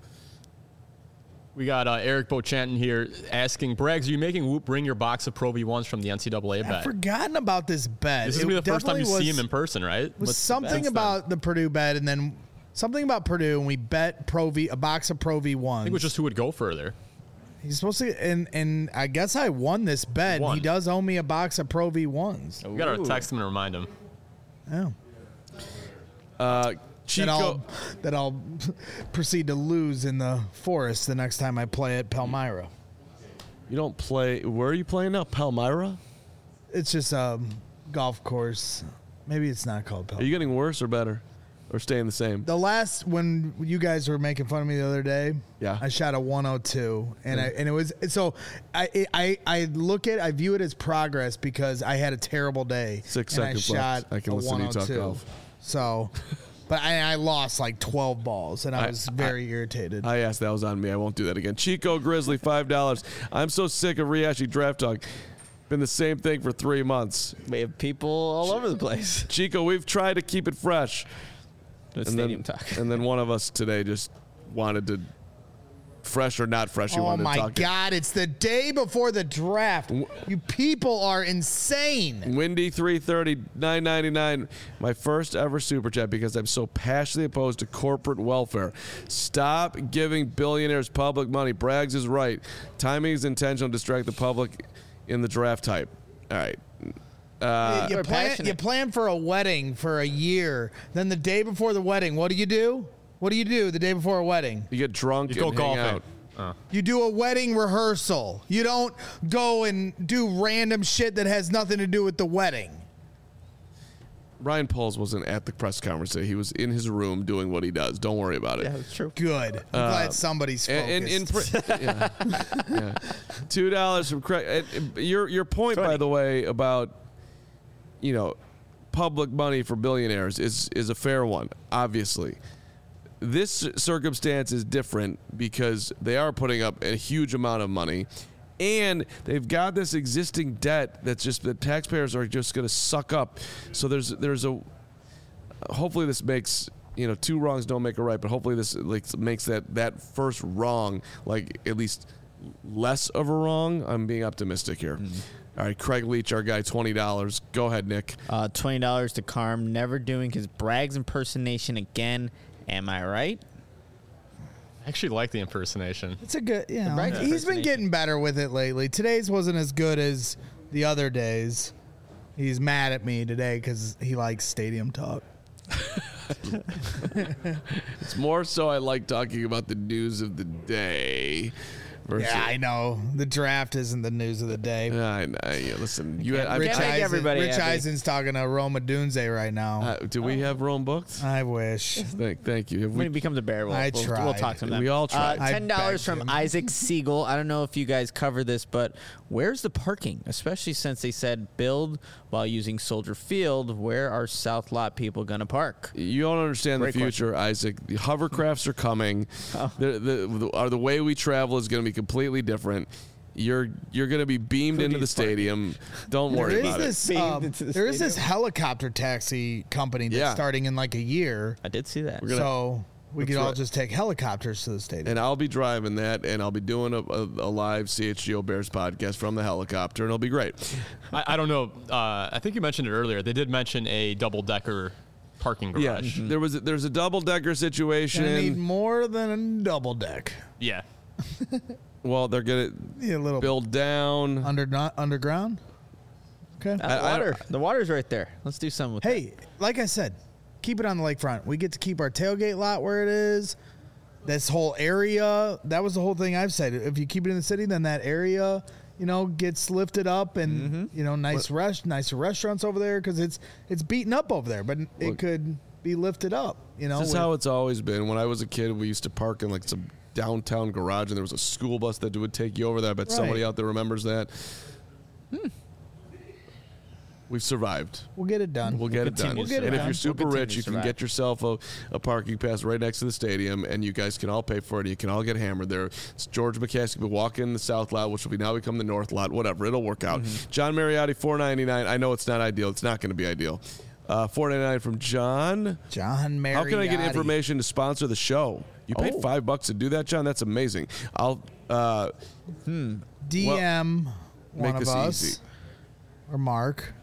We got uh, Eric Bochanton here asking, Braggs, are you making Whoop bring your box of Pro V ones from the N C double A I've bet? forgotten about this bet. This is It going to be the first time you definitely see was- him in person, right? was What's- something since then? about the Purdue bet, and then something about Purdue, and we bet Pro V, a box of Pro V ones. I think it was just who would go further. He's supposed to, and and I guess I won this bet. And Won. he does owe me a box of Pro V ones. We got to text him and remind him. Yeah. Uh, That I'll, Chico. that I'll proceed to lose in the forest the next time I play at Palmyra. You don't play. Where are you playing now? Palmyra? It's just a golf course. Maybe it's not called Are Palmyra. you getting worse or better? Or staying the same? The last when you guys were making fun of me the other day, Yeah. I shot a one oh two, and I and it was so I I I look at I view it as progress because I had a terrible day. Six and seconds I shot left. I can a listen to you talk one oh two. golf. So, but I, I lost like twelve balls, and I I- was very irritated. I asked. That was on me. I won't do that again. Chico Grizzly, five dollars. I'm so sick of rehashing draft talk. Been the same thing for three months. We have people all over the place. Chico, we've tried to keep it fresh. The And stadium then, talk. and then one of us today just wanted to, fresh or not fresh, you Oh wanted my to talk. God! It's the day before the draft. You people are insane. Windy three thirty, nine ninety-nine. My first ever super chat because I'm so passionately opposed to corporate welfare. Stop giving billionaires public money. Braggs is right. Timing is intentional to distract the public in the draft type. All right. Uh, you, We're plan, passionate. you plan for a wedding for a year. Then the day before the wedding, what do you do? What do you do the day before a wedding? you get drunk You and go hang golfing. out. You do a wedding rehearsal. You don't go and do random shit that has nothing to do with the wedding. Ryan Pauls wasn't at the press conference today. He was in his room doing what he does. Don't worry about it. Yeah, that's true. Good. I'm glad somebody's focused. And, and, and pr- yeah. Yeah. Two dollars from Craig. And- and Your your point, by the way, about you know public money for billionaires is is a fair one. Obviously, this circumstance is different because they are putting up a huge amount of money, and they've got this existing debt that's just the taxpayers are just going to suck up. So there's there's a hopefully this makes you know two wrongs don't make a right, but hopefully this like makes that that first wrong like at least less of a wrong. I'm being optimistic here. All right, Craig Leach, our guy, twenty dollars. Go ahead, Nick. Uh, twenty dollars to Carm, never doing his Braggs impersonation again. Am I right? I actually like the impersonation. It's a good, you know, Bragg he's been impersonation. getting better with it lately. Today's wasn't as good as the other days. He's mad at me today because he likes stadium talk. It's more so I like talking about the news of the day. Versus, Yeah, I know. The draft isn't the news of the day. Yeah, I know. Yeah, listen, you. Had, I, Rich, Can't make Eisen, everybody Rich happy. Eisen's talking to Roma Dunze right now. uh, do we have Rome booked? I wish. Thank, thank you. Have When he we, becomes a bear, we'll, I we'll, tried. we'll talk to him then. We all tried. Uh, I ten dollars begged from him. Isaac Siegel. I don't know if you guys cover this, but where's the parking? Especially since they said build while using Soldier Field. Where are South Lot people going to park? you don't understand Great the future, Isaac. The hovercrafts are coming. Oh. The, the, the, uh, the way we travel is going to be completely different. You're you're going to be beamed into the needs parking? stadium. Don't There worry is about it. this. Beamed Um, into the there is this stadium. helicopter taxi company that's Yeah. starting in like a year. I did see that. gonna- so we That's could all right. just take helicopters to the stadium. And I'll be driving that, and I'll be doing a, a, a live C H G O Bears podcast from the helicopter, and it'll be great. I, I don't know. Uh, I think you mentioned it earlier. They did mention a double decker parking Yeah, garage. there was a, there's a double decker situation. I need more than a double deck. Yeah. Well, they're gonna Yeah, a little build down. under not underground. Okay. Uh, I- I- water. the water's right there. Let's do something with Hey, like I said, keep it on the lakefront. We get to keep our tailgate lot where it is. This whole area, that was the whole thing I've said. If you keep it in the city, then that area, you know, gets lifted up, and Mm-hmm. you know, nice rest, nicer restaurants over there because it's it's beaten up over there, but it could be lifted up. You know, This is with- how it's always been. When I was a kid, we used to park in like some downtown garage, and there was a school bus that would take you over there. I bet somebody Right. out there remembers that. We've survived. we'll get it done. We'll get it done. continue to survive. And if you're We'll super continue rich, to you can survive. get yourself a, a parking pass right next to the stadium, and you guys can all pay for it. You can all get hammered there. It's George McCaskey will walk in the south lot, which will be now become the north lot. Whatever, it'll work out. Mm-hmm. John Mariotti, four ninety-nine. I know it's not ideal. It's not going to be ideal. Uh, four ninety-nine from John. John Mariotti. How can I get information to sponsor the show? You paid Oh. five bucks to do that, John. That's amazing. I'll uh, D M one make of this us easy. or Mark.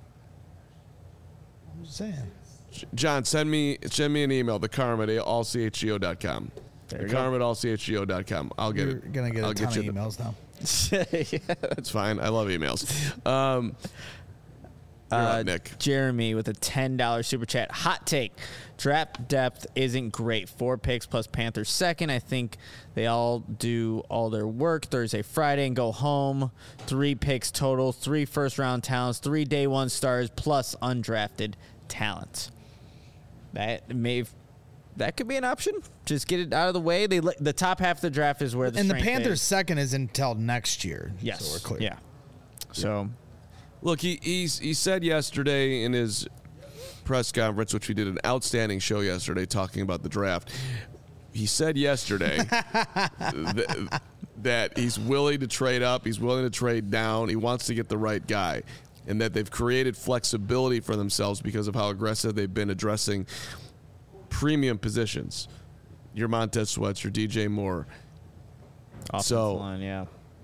I'm just saying. John, send me send me an email. The Carm at all c h g o dot com. The Carm at all c h g o dot com. I'll get You're it. gonna get I'll a ton you of the- emails now. That's fine. I love emails. Um, you're Uh, up, Nick. Jeremy with a ten dollars super chat. Hot take. Draft depth isn't great. Four picks plus Panthers second. I think they all do all their work Thursday, Friday, and go home. Three picks total. Three first-round talents. Three day one stars plus undrafted talent. That may that could be an option. Just get it out of the way. They let- the top half of the draft is where the And the strength Panthers' is. second is until next year. Yes. So we're clear. Yeah. So Look, he he's, he said yesterday in his press conference, which we did an outstanding show yesterday talking about the draft. He said yesterday th- that he's willing to trade up, he's willing to trade down, he wants to get the right guy, and that they've created flexibility for themselves because of how aggressive they've been addressing premium positions. Your Montez Sweats, your D J Moore, offensive So- line, yeah.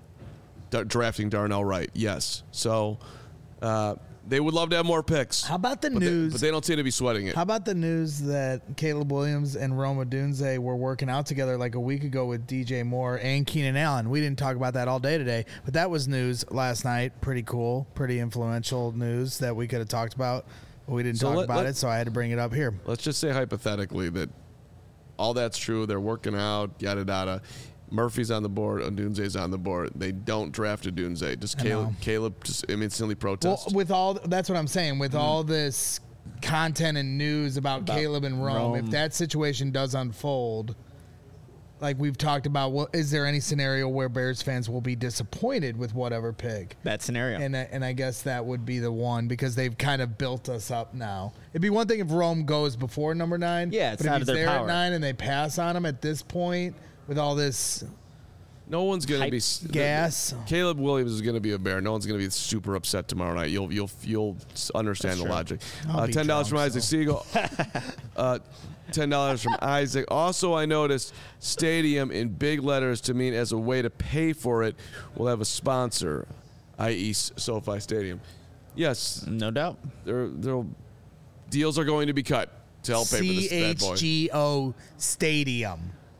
da- drafting Darnell Wright. Yes. So uh, they would love to have more picks. How about the but they- news? but they don't seem to be sweating it. How about the news that Caleb Williams and Roma Dunze were working out together like a week ago with D J Moore and Keenan Allen? We didn't talk about that all day today, but that was news last night. Pretty cool, pretty influential news that we could have talked about, but we didn't So talk let- about let- it, so I had to bring it up here. Let's just say hypothetically that all that's true. They're working out, yada yada. Murphy's on the board, Odunze's on the board. They don't draft Odunze. Does I Caleb, know. Caleb just instantly Well, protest? with all that's what I'm saying. With all this content and news about, About Caleb and Rome, Rome. if that situation does unfold, like we've talked about, what is there any scenario where Bears fans will be disappointed with whatever pick? That scenario. And I, and I guess that would be the one because they've kind of built us up now. It'd be one thing if Rome goes before number nine. Yeah, it's but out if of he's their there power. at nine and they pass on him at this point with all this no one's going to hype be s- the- gas. Caleb Williams is going to be a Bear. No one's going to be super upset tomorrow night. You'll you'll you'll s- understand the logic. I'll Uh, be Ten dollars from drunk, Isaac so. Siegel. uh, Ten dollars from Isaac. Also, I noticed stadium in big letters to mean as a way to pay for it. We'll have a sponsor, that is, SoFi Stadium. Yes, No doubt. there there deals are going to be cut to help pay for C this bad H boy. G O Stadium.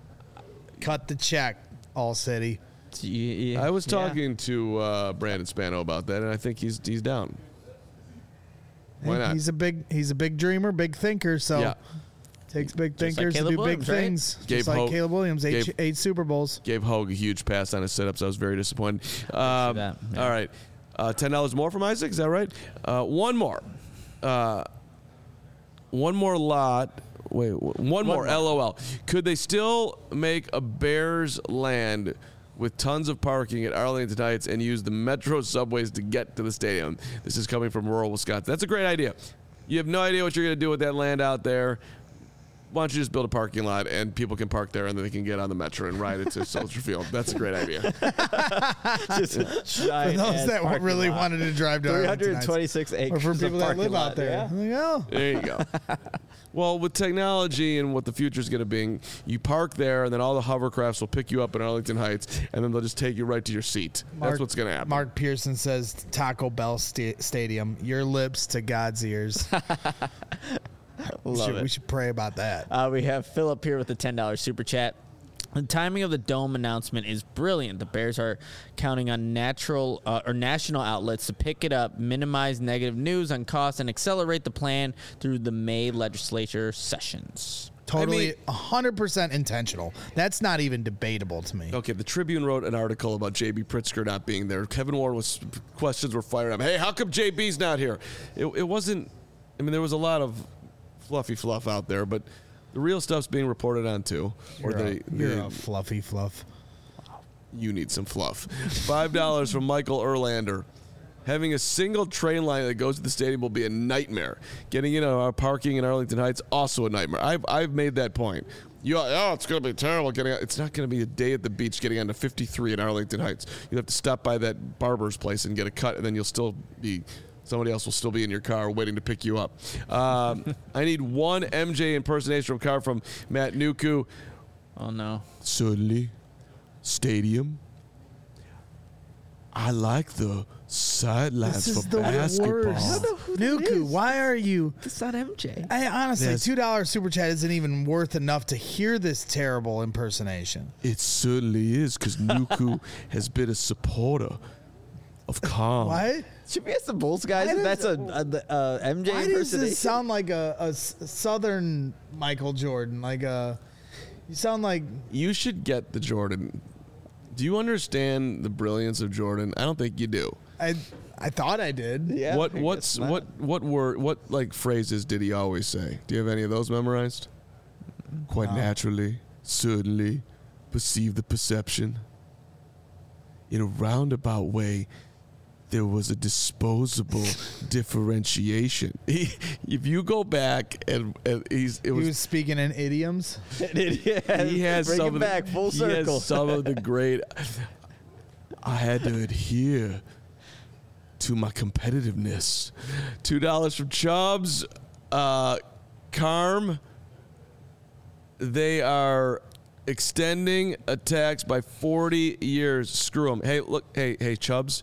Cut the check, All City. I was talking to uh, Brandon Spano about that, and I think he's he's down. Why not? He's a big he's a big dreamer, big thinker. So Yeah. takes big Just like thinkers to Caleb do Williams, big right? things. Gabe Just like Hogue- Caleb Williams, eight, Gabe- eight Super Bowls. Gave Hogue a huge pass on his sit-ups. I was very disappointed. Um, that, yeah. All right. Uh, ten dollars more from Isaac. Is that right? Uh, one more. Uh, one more lot. Wait, w- one, more. more. LOL. Could they still make a Bears land with tons of parking at Arlington Heights and use the Metro subways to get to the stadium? This is coming from rural Wisconsin. That's a great idea. You have no idea what you're going to do with that land out there. Why don't you just build a parking lot and people can park there and then they can get on the Metro and ride it to Soldier Field? That's a great idea. Just a For giant those ass that parking really lot. wanted to drive to three Arlington hundred Heights. twenty-six acres. Or for of people that parking live lot, out there. yeah. I'm like, oh. There you go. Well, with technology and what the future is going to be, you park there, and then all the hovercrafts will pick you up in Arlington Heights, and then they'll just take you right to your seat. That's Mark- what's going to happen. Mark Pearson says Taco Bell sta- Stadium, your lips to God's ears. we, Love should, it. we should pray about that. Uh, we have Philip here with a ten dollars super chat. The timing of the dome announcement is brilliant. The Bears are counting on natural uh, or national outlets to pick it up, minimize negative news on costs, and accelerate the plan through the May legislature sessions. Totally, I mean- one hundred percent intentional. That's not even debatable to me. Okay, the Tribune wrote an article about J B Pritzker not being there. Kevin Warren was questions were fired up. Hey, how come J B's not here? It, it wasn't. I mean, there was a lot of fluffy fluff out there, but the real stuff's being reported on too. Or You're, they, a, you're they- a fluffy fluff. you need some fluff. Five dollars from Michael Erlander. Having a single train line that goes to the stadium will be a nightmare. Getting in on our parking in Arlington Heights, also a nightmare. I've I've made that point. You, oh, it's going to be terrible getting out. It's not going to be a day at the beach getting onto fifty-three in Arlington Heights. You have to stop by that barber's place and get a cut, and then you'll still be, somebody else will still be in your car waiting to pick you up. Um, I need one M J impersonation from car from Matt Nuku. Oh, no. Certainly. Stadium. I like the sidelines This is for the basketball. worst. Nuku, why are you? It's not M J. I honestly, Yes. two dollar super chat isn't even worth enough to hear this terrible impersonation. It certainly is, because Nuku has been a supporter of calm. What? Should we ask the Bulls guys Why if that's a, does- a, a M J Why does impersonation? this sound like a, a s- southern Michael Jordan? Like a, you sound like You should get the Jordan. Do you understand the brilliance of Jordan? I don't think you do. I. I thought I did. Yeah, what I what's guess not. what what word what like phrases did he always say? Do you have any of those memorized? Quite naturally, certainly, perceive the perception. In a roundabout way, there was a disposable differentiation. He, if you go back and, and he's it He was, was speaking in idioms. yeah, he has bring some it of back the, full he circle. has some of the great. I had to adhere to my competitiveness. Two dollars from Chubbs. Uh, Carm. They are extending a tax by forty years. Screw them. Hey, look. Hey, hey, Chubbs.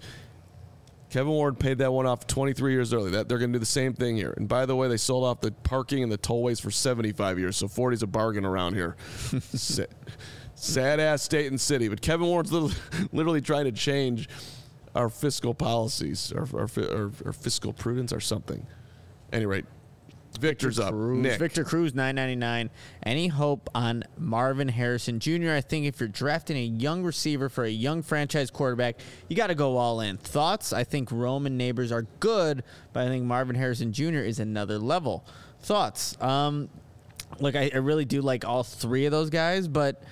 Kevin Warren paid that one off twenty-three years early. That they're going to do the same thing here. And by the way, they sold off the parking and the tollways for seventy-five years. So forty is a bargain around here. Sa- Sad ass state and city. But Kevin Warren's literally, literally trying to change our fiscal policies, our, our, our, our fiscal prudence, or something. Any rate, Victor's up. Cruz. Nick. Victor Cruz, nine ninety-nine. Any hope on Marvin Harrison Junior? I think if you're drafting a young receiver for a young franchise quarterback, you got to go all in. Thoughts? I think Roman Neighbors are good, but I think Marvin Harrison Junior is another level. Thoughts? Um, look, I, I really do like all three of those guys, but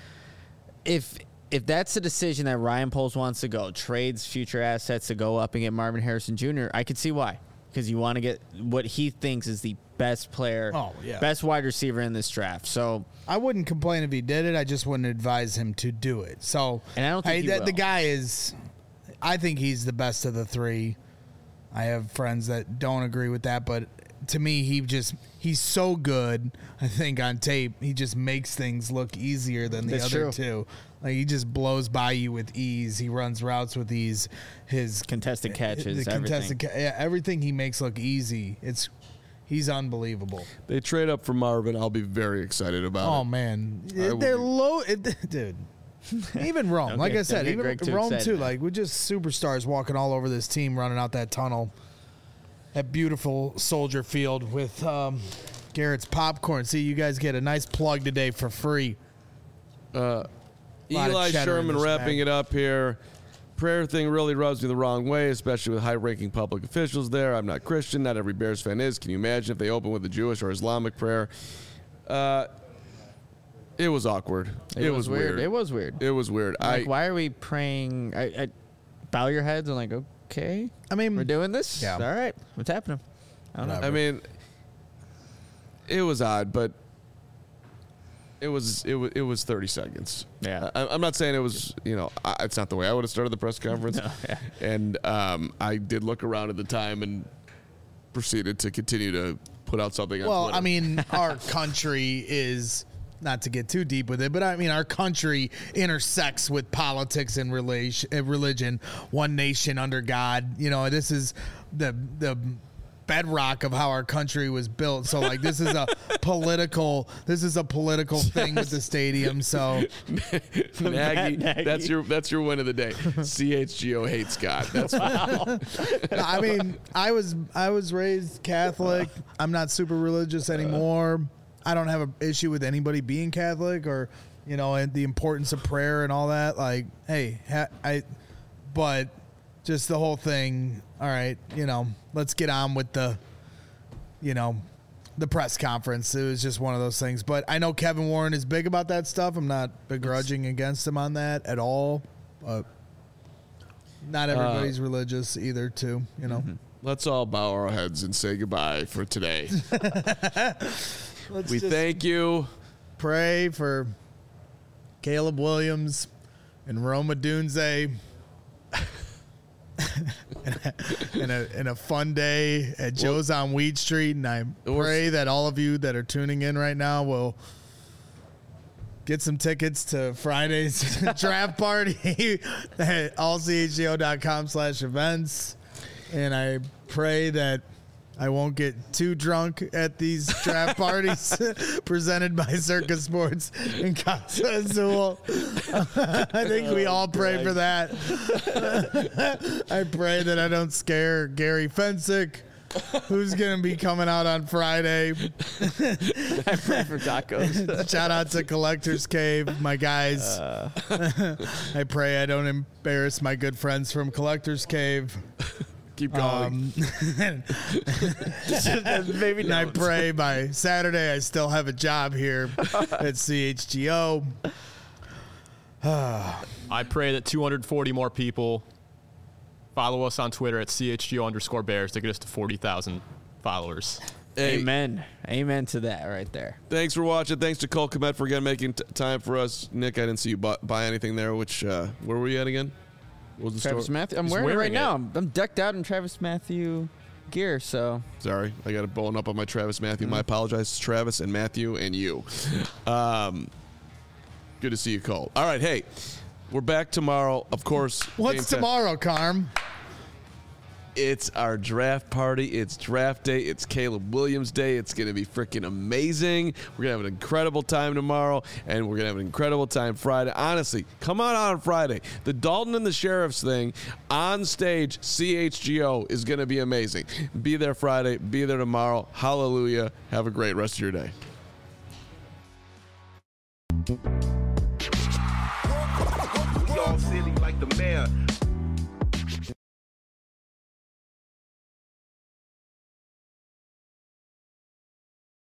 if if that's the decision that Ryan Poles wants to go, trades future assets to go up and get Marvin Harrison Junior, I could see why. Because you want to get what he thinks is the best player, Oh, yeah. best wide receiver in this draft. So, I wouldn't complain if he did it. I just wouldn't advise him to do it. So, And I don't think hey, he the, will. the guy is. I think he's the best of the three. I have friends that don't agree with that, but to me, he just he's so good. I think on tape, he just makes things look easier than the That's other true. two. Like he just blows by you with ease. He runs routes with ease. His contested catches, the everything. contested ca- yeah, everything he makes look easy. It's he's unbelievable. They trade up for Marvin. I'll be very excited about Oh it. man, I will they're be- low, it, dude. Even Rome, Don't like get- I said, don't get even Greg too Rome excited, too. man. Like we're just superstars walking all over this team, running out that tunnel, that beautiful Soldier Field with um, Garrett's popcorn. See, you guys get a nice plug today for free. lot of Eli cheddar in Sherman this wrapping bag. it up here. Prayer thing really rubs me the wrong way, especially with high-ranking public officials there. I'm not Christian. Not every Bears fan is. Can you imagine if they open with a Jewish or Islamic prayer? Uh, it was awkward. It, was, weird. It was weird. It was weird. Like, I why are we praying? I, I bow your heads. I'm like, okay, I mean, we're doing this. Yeah. All right, what's happening? I don't know. Whatever. I mean, it was odd, but it was it was it was thirty seconds. Yeah. I, I'm not saying it was you know I, it's not the way I would have started the press conference. No, yeah. And um, I did look around at the time and proceeded to continue to put out something. On well, Twitter. I mean, our country is not to get too deep with it, but I mean, our country intersects with politics and relation, uh, religion. One nation under God. You know, this is the the bedrock of how our country was built. So like this is a political this is a political thing with the stadium. So Nagy, Nagy. that's your that's your win of the day. C H G O hates God. That's wow. I mean, I was I was raised Catholic. I'm not super religious anymore. I don't have an issue with anybody being Catholic or, you know, and the importance of prayer and all that. Like, hey, ha- I, but just the whole thing. All right, you know, let's get on with the, you know, the press conference. It was just one of those things. But I know Kevin Warren is big about that stuff. I'm not begrudging against him on that at all. But not everybody's uh, religious either, too. You know. Mm-hmm. Let's all bow our heads and say goodbye for today. We thank you. Pray for Caleb Williams and Roma Dunze. in, a, in a fun day at Joe's on Weed Street, and I pray that all of you that are tuning in right now will get some tickets to Friday's draft party at all c h g o dot com slash events, and I pray that I won't get too drunk at these draft parties presented by Circa Sports and Casa Azul. I think we all pray for that. I pray that I don't scare Gary Fensick, who's going to be coming out on Friday. I pray for tacos. Shout out to Collector's Cave, my guys. Uh. I pray I don't embarrass my good friends from Collector's Cave. Keep going. Um, Maybe and I pray by Saturday I still have a job here at C H G O. I pray that two hundred forty more people follow us on Twitter at C H G O underscore Bears to get us to forty thousand followers. Hey, Amen. Amen to that right there. Thanks for watching. Thanks to Cole Kmet for again making t- time for us. Nick, I didn't see you buy, buy anything there. Which uh, where were you at again? What was the Travis store? Matthew. I'm He's wearing, wearing it right it. now. I'm, I'm decked out in Travis Matthew gear. So Sorry, I got it blowing up on my Travis Matthew. My apologies, Travis and Matthew and you. Um, good to see you, Cole. All right, hey, we're back tomorrow. Of course. What's game ten. tomorrow, Carm? It's our draft party. It's draft day. It's Caleb Williams day. It's going to be freaking amazing. We're going to have an incredible time tomorrow, and we're going to have an incredible time Friday. Honestly, come on out on Friday. The Dalton and the Sheriffs thing on stage, C H G O, is going to be amazing. Be there Friday. Be there tomorrow. Hallelujah. Have a great rest of your day. Y'all silly like the mayor.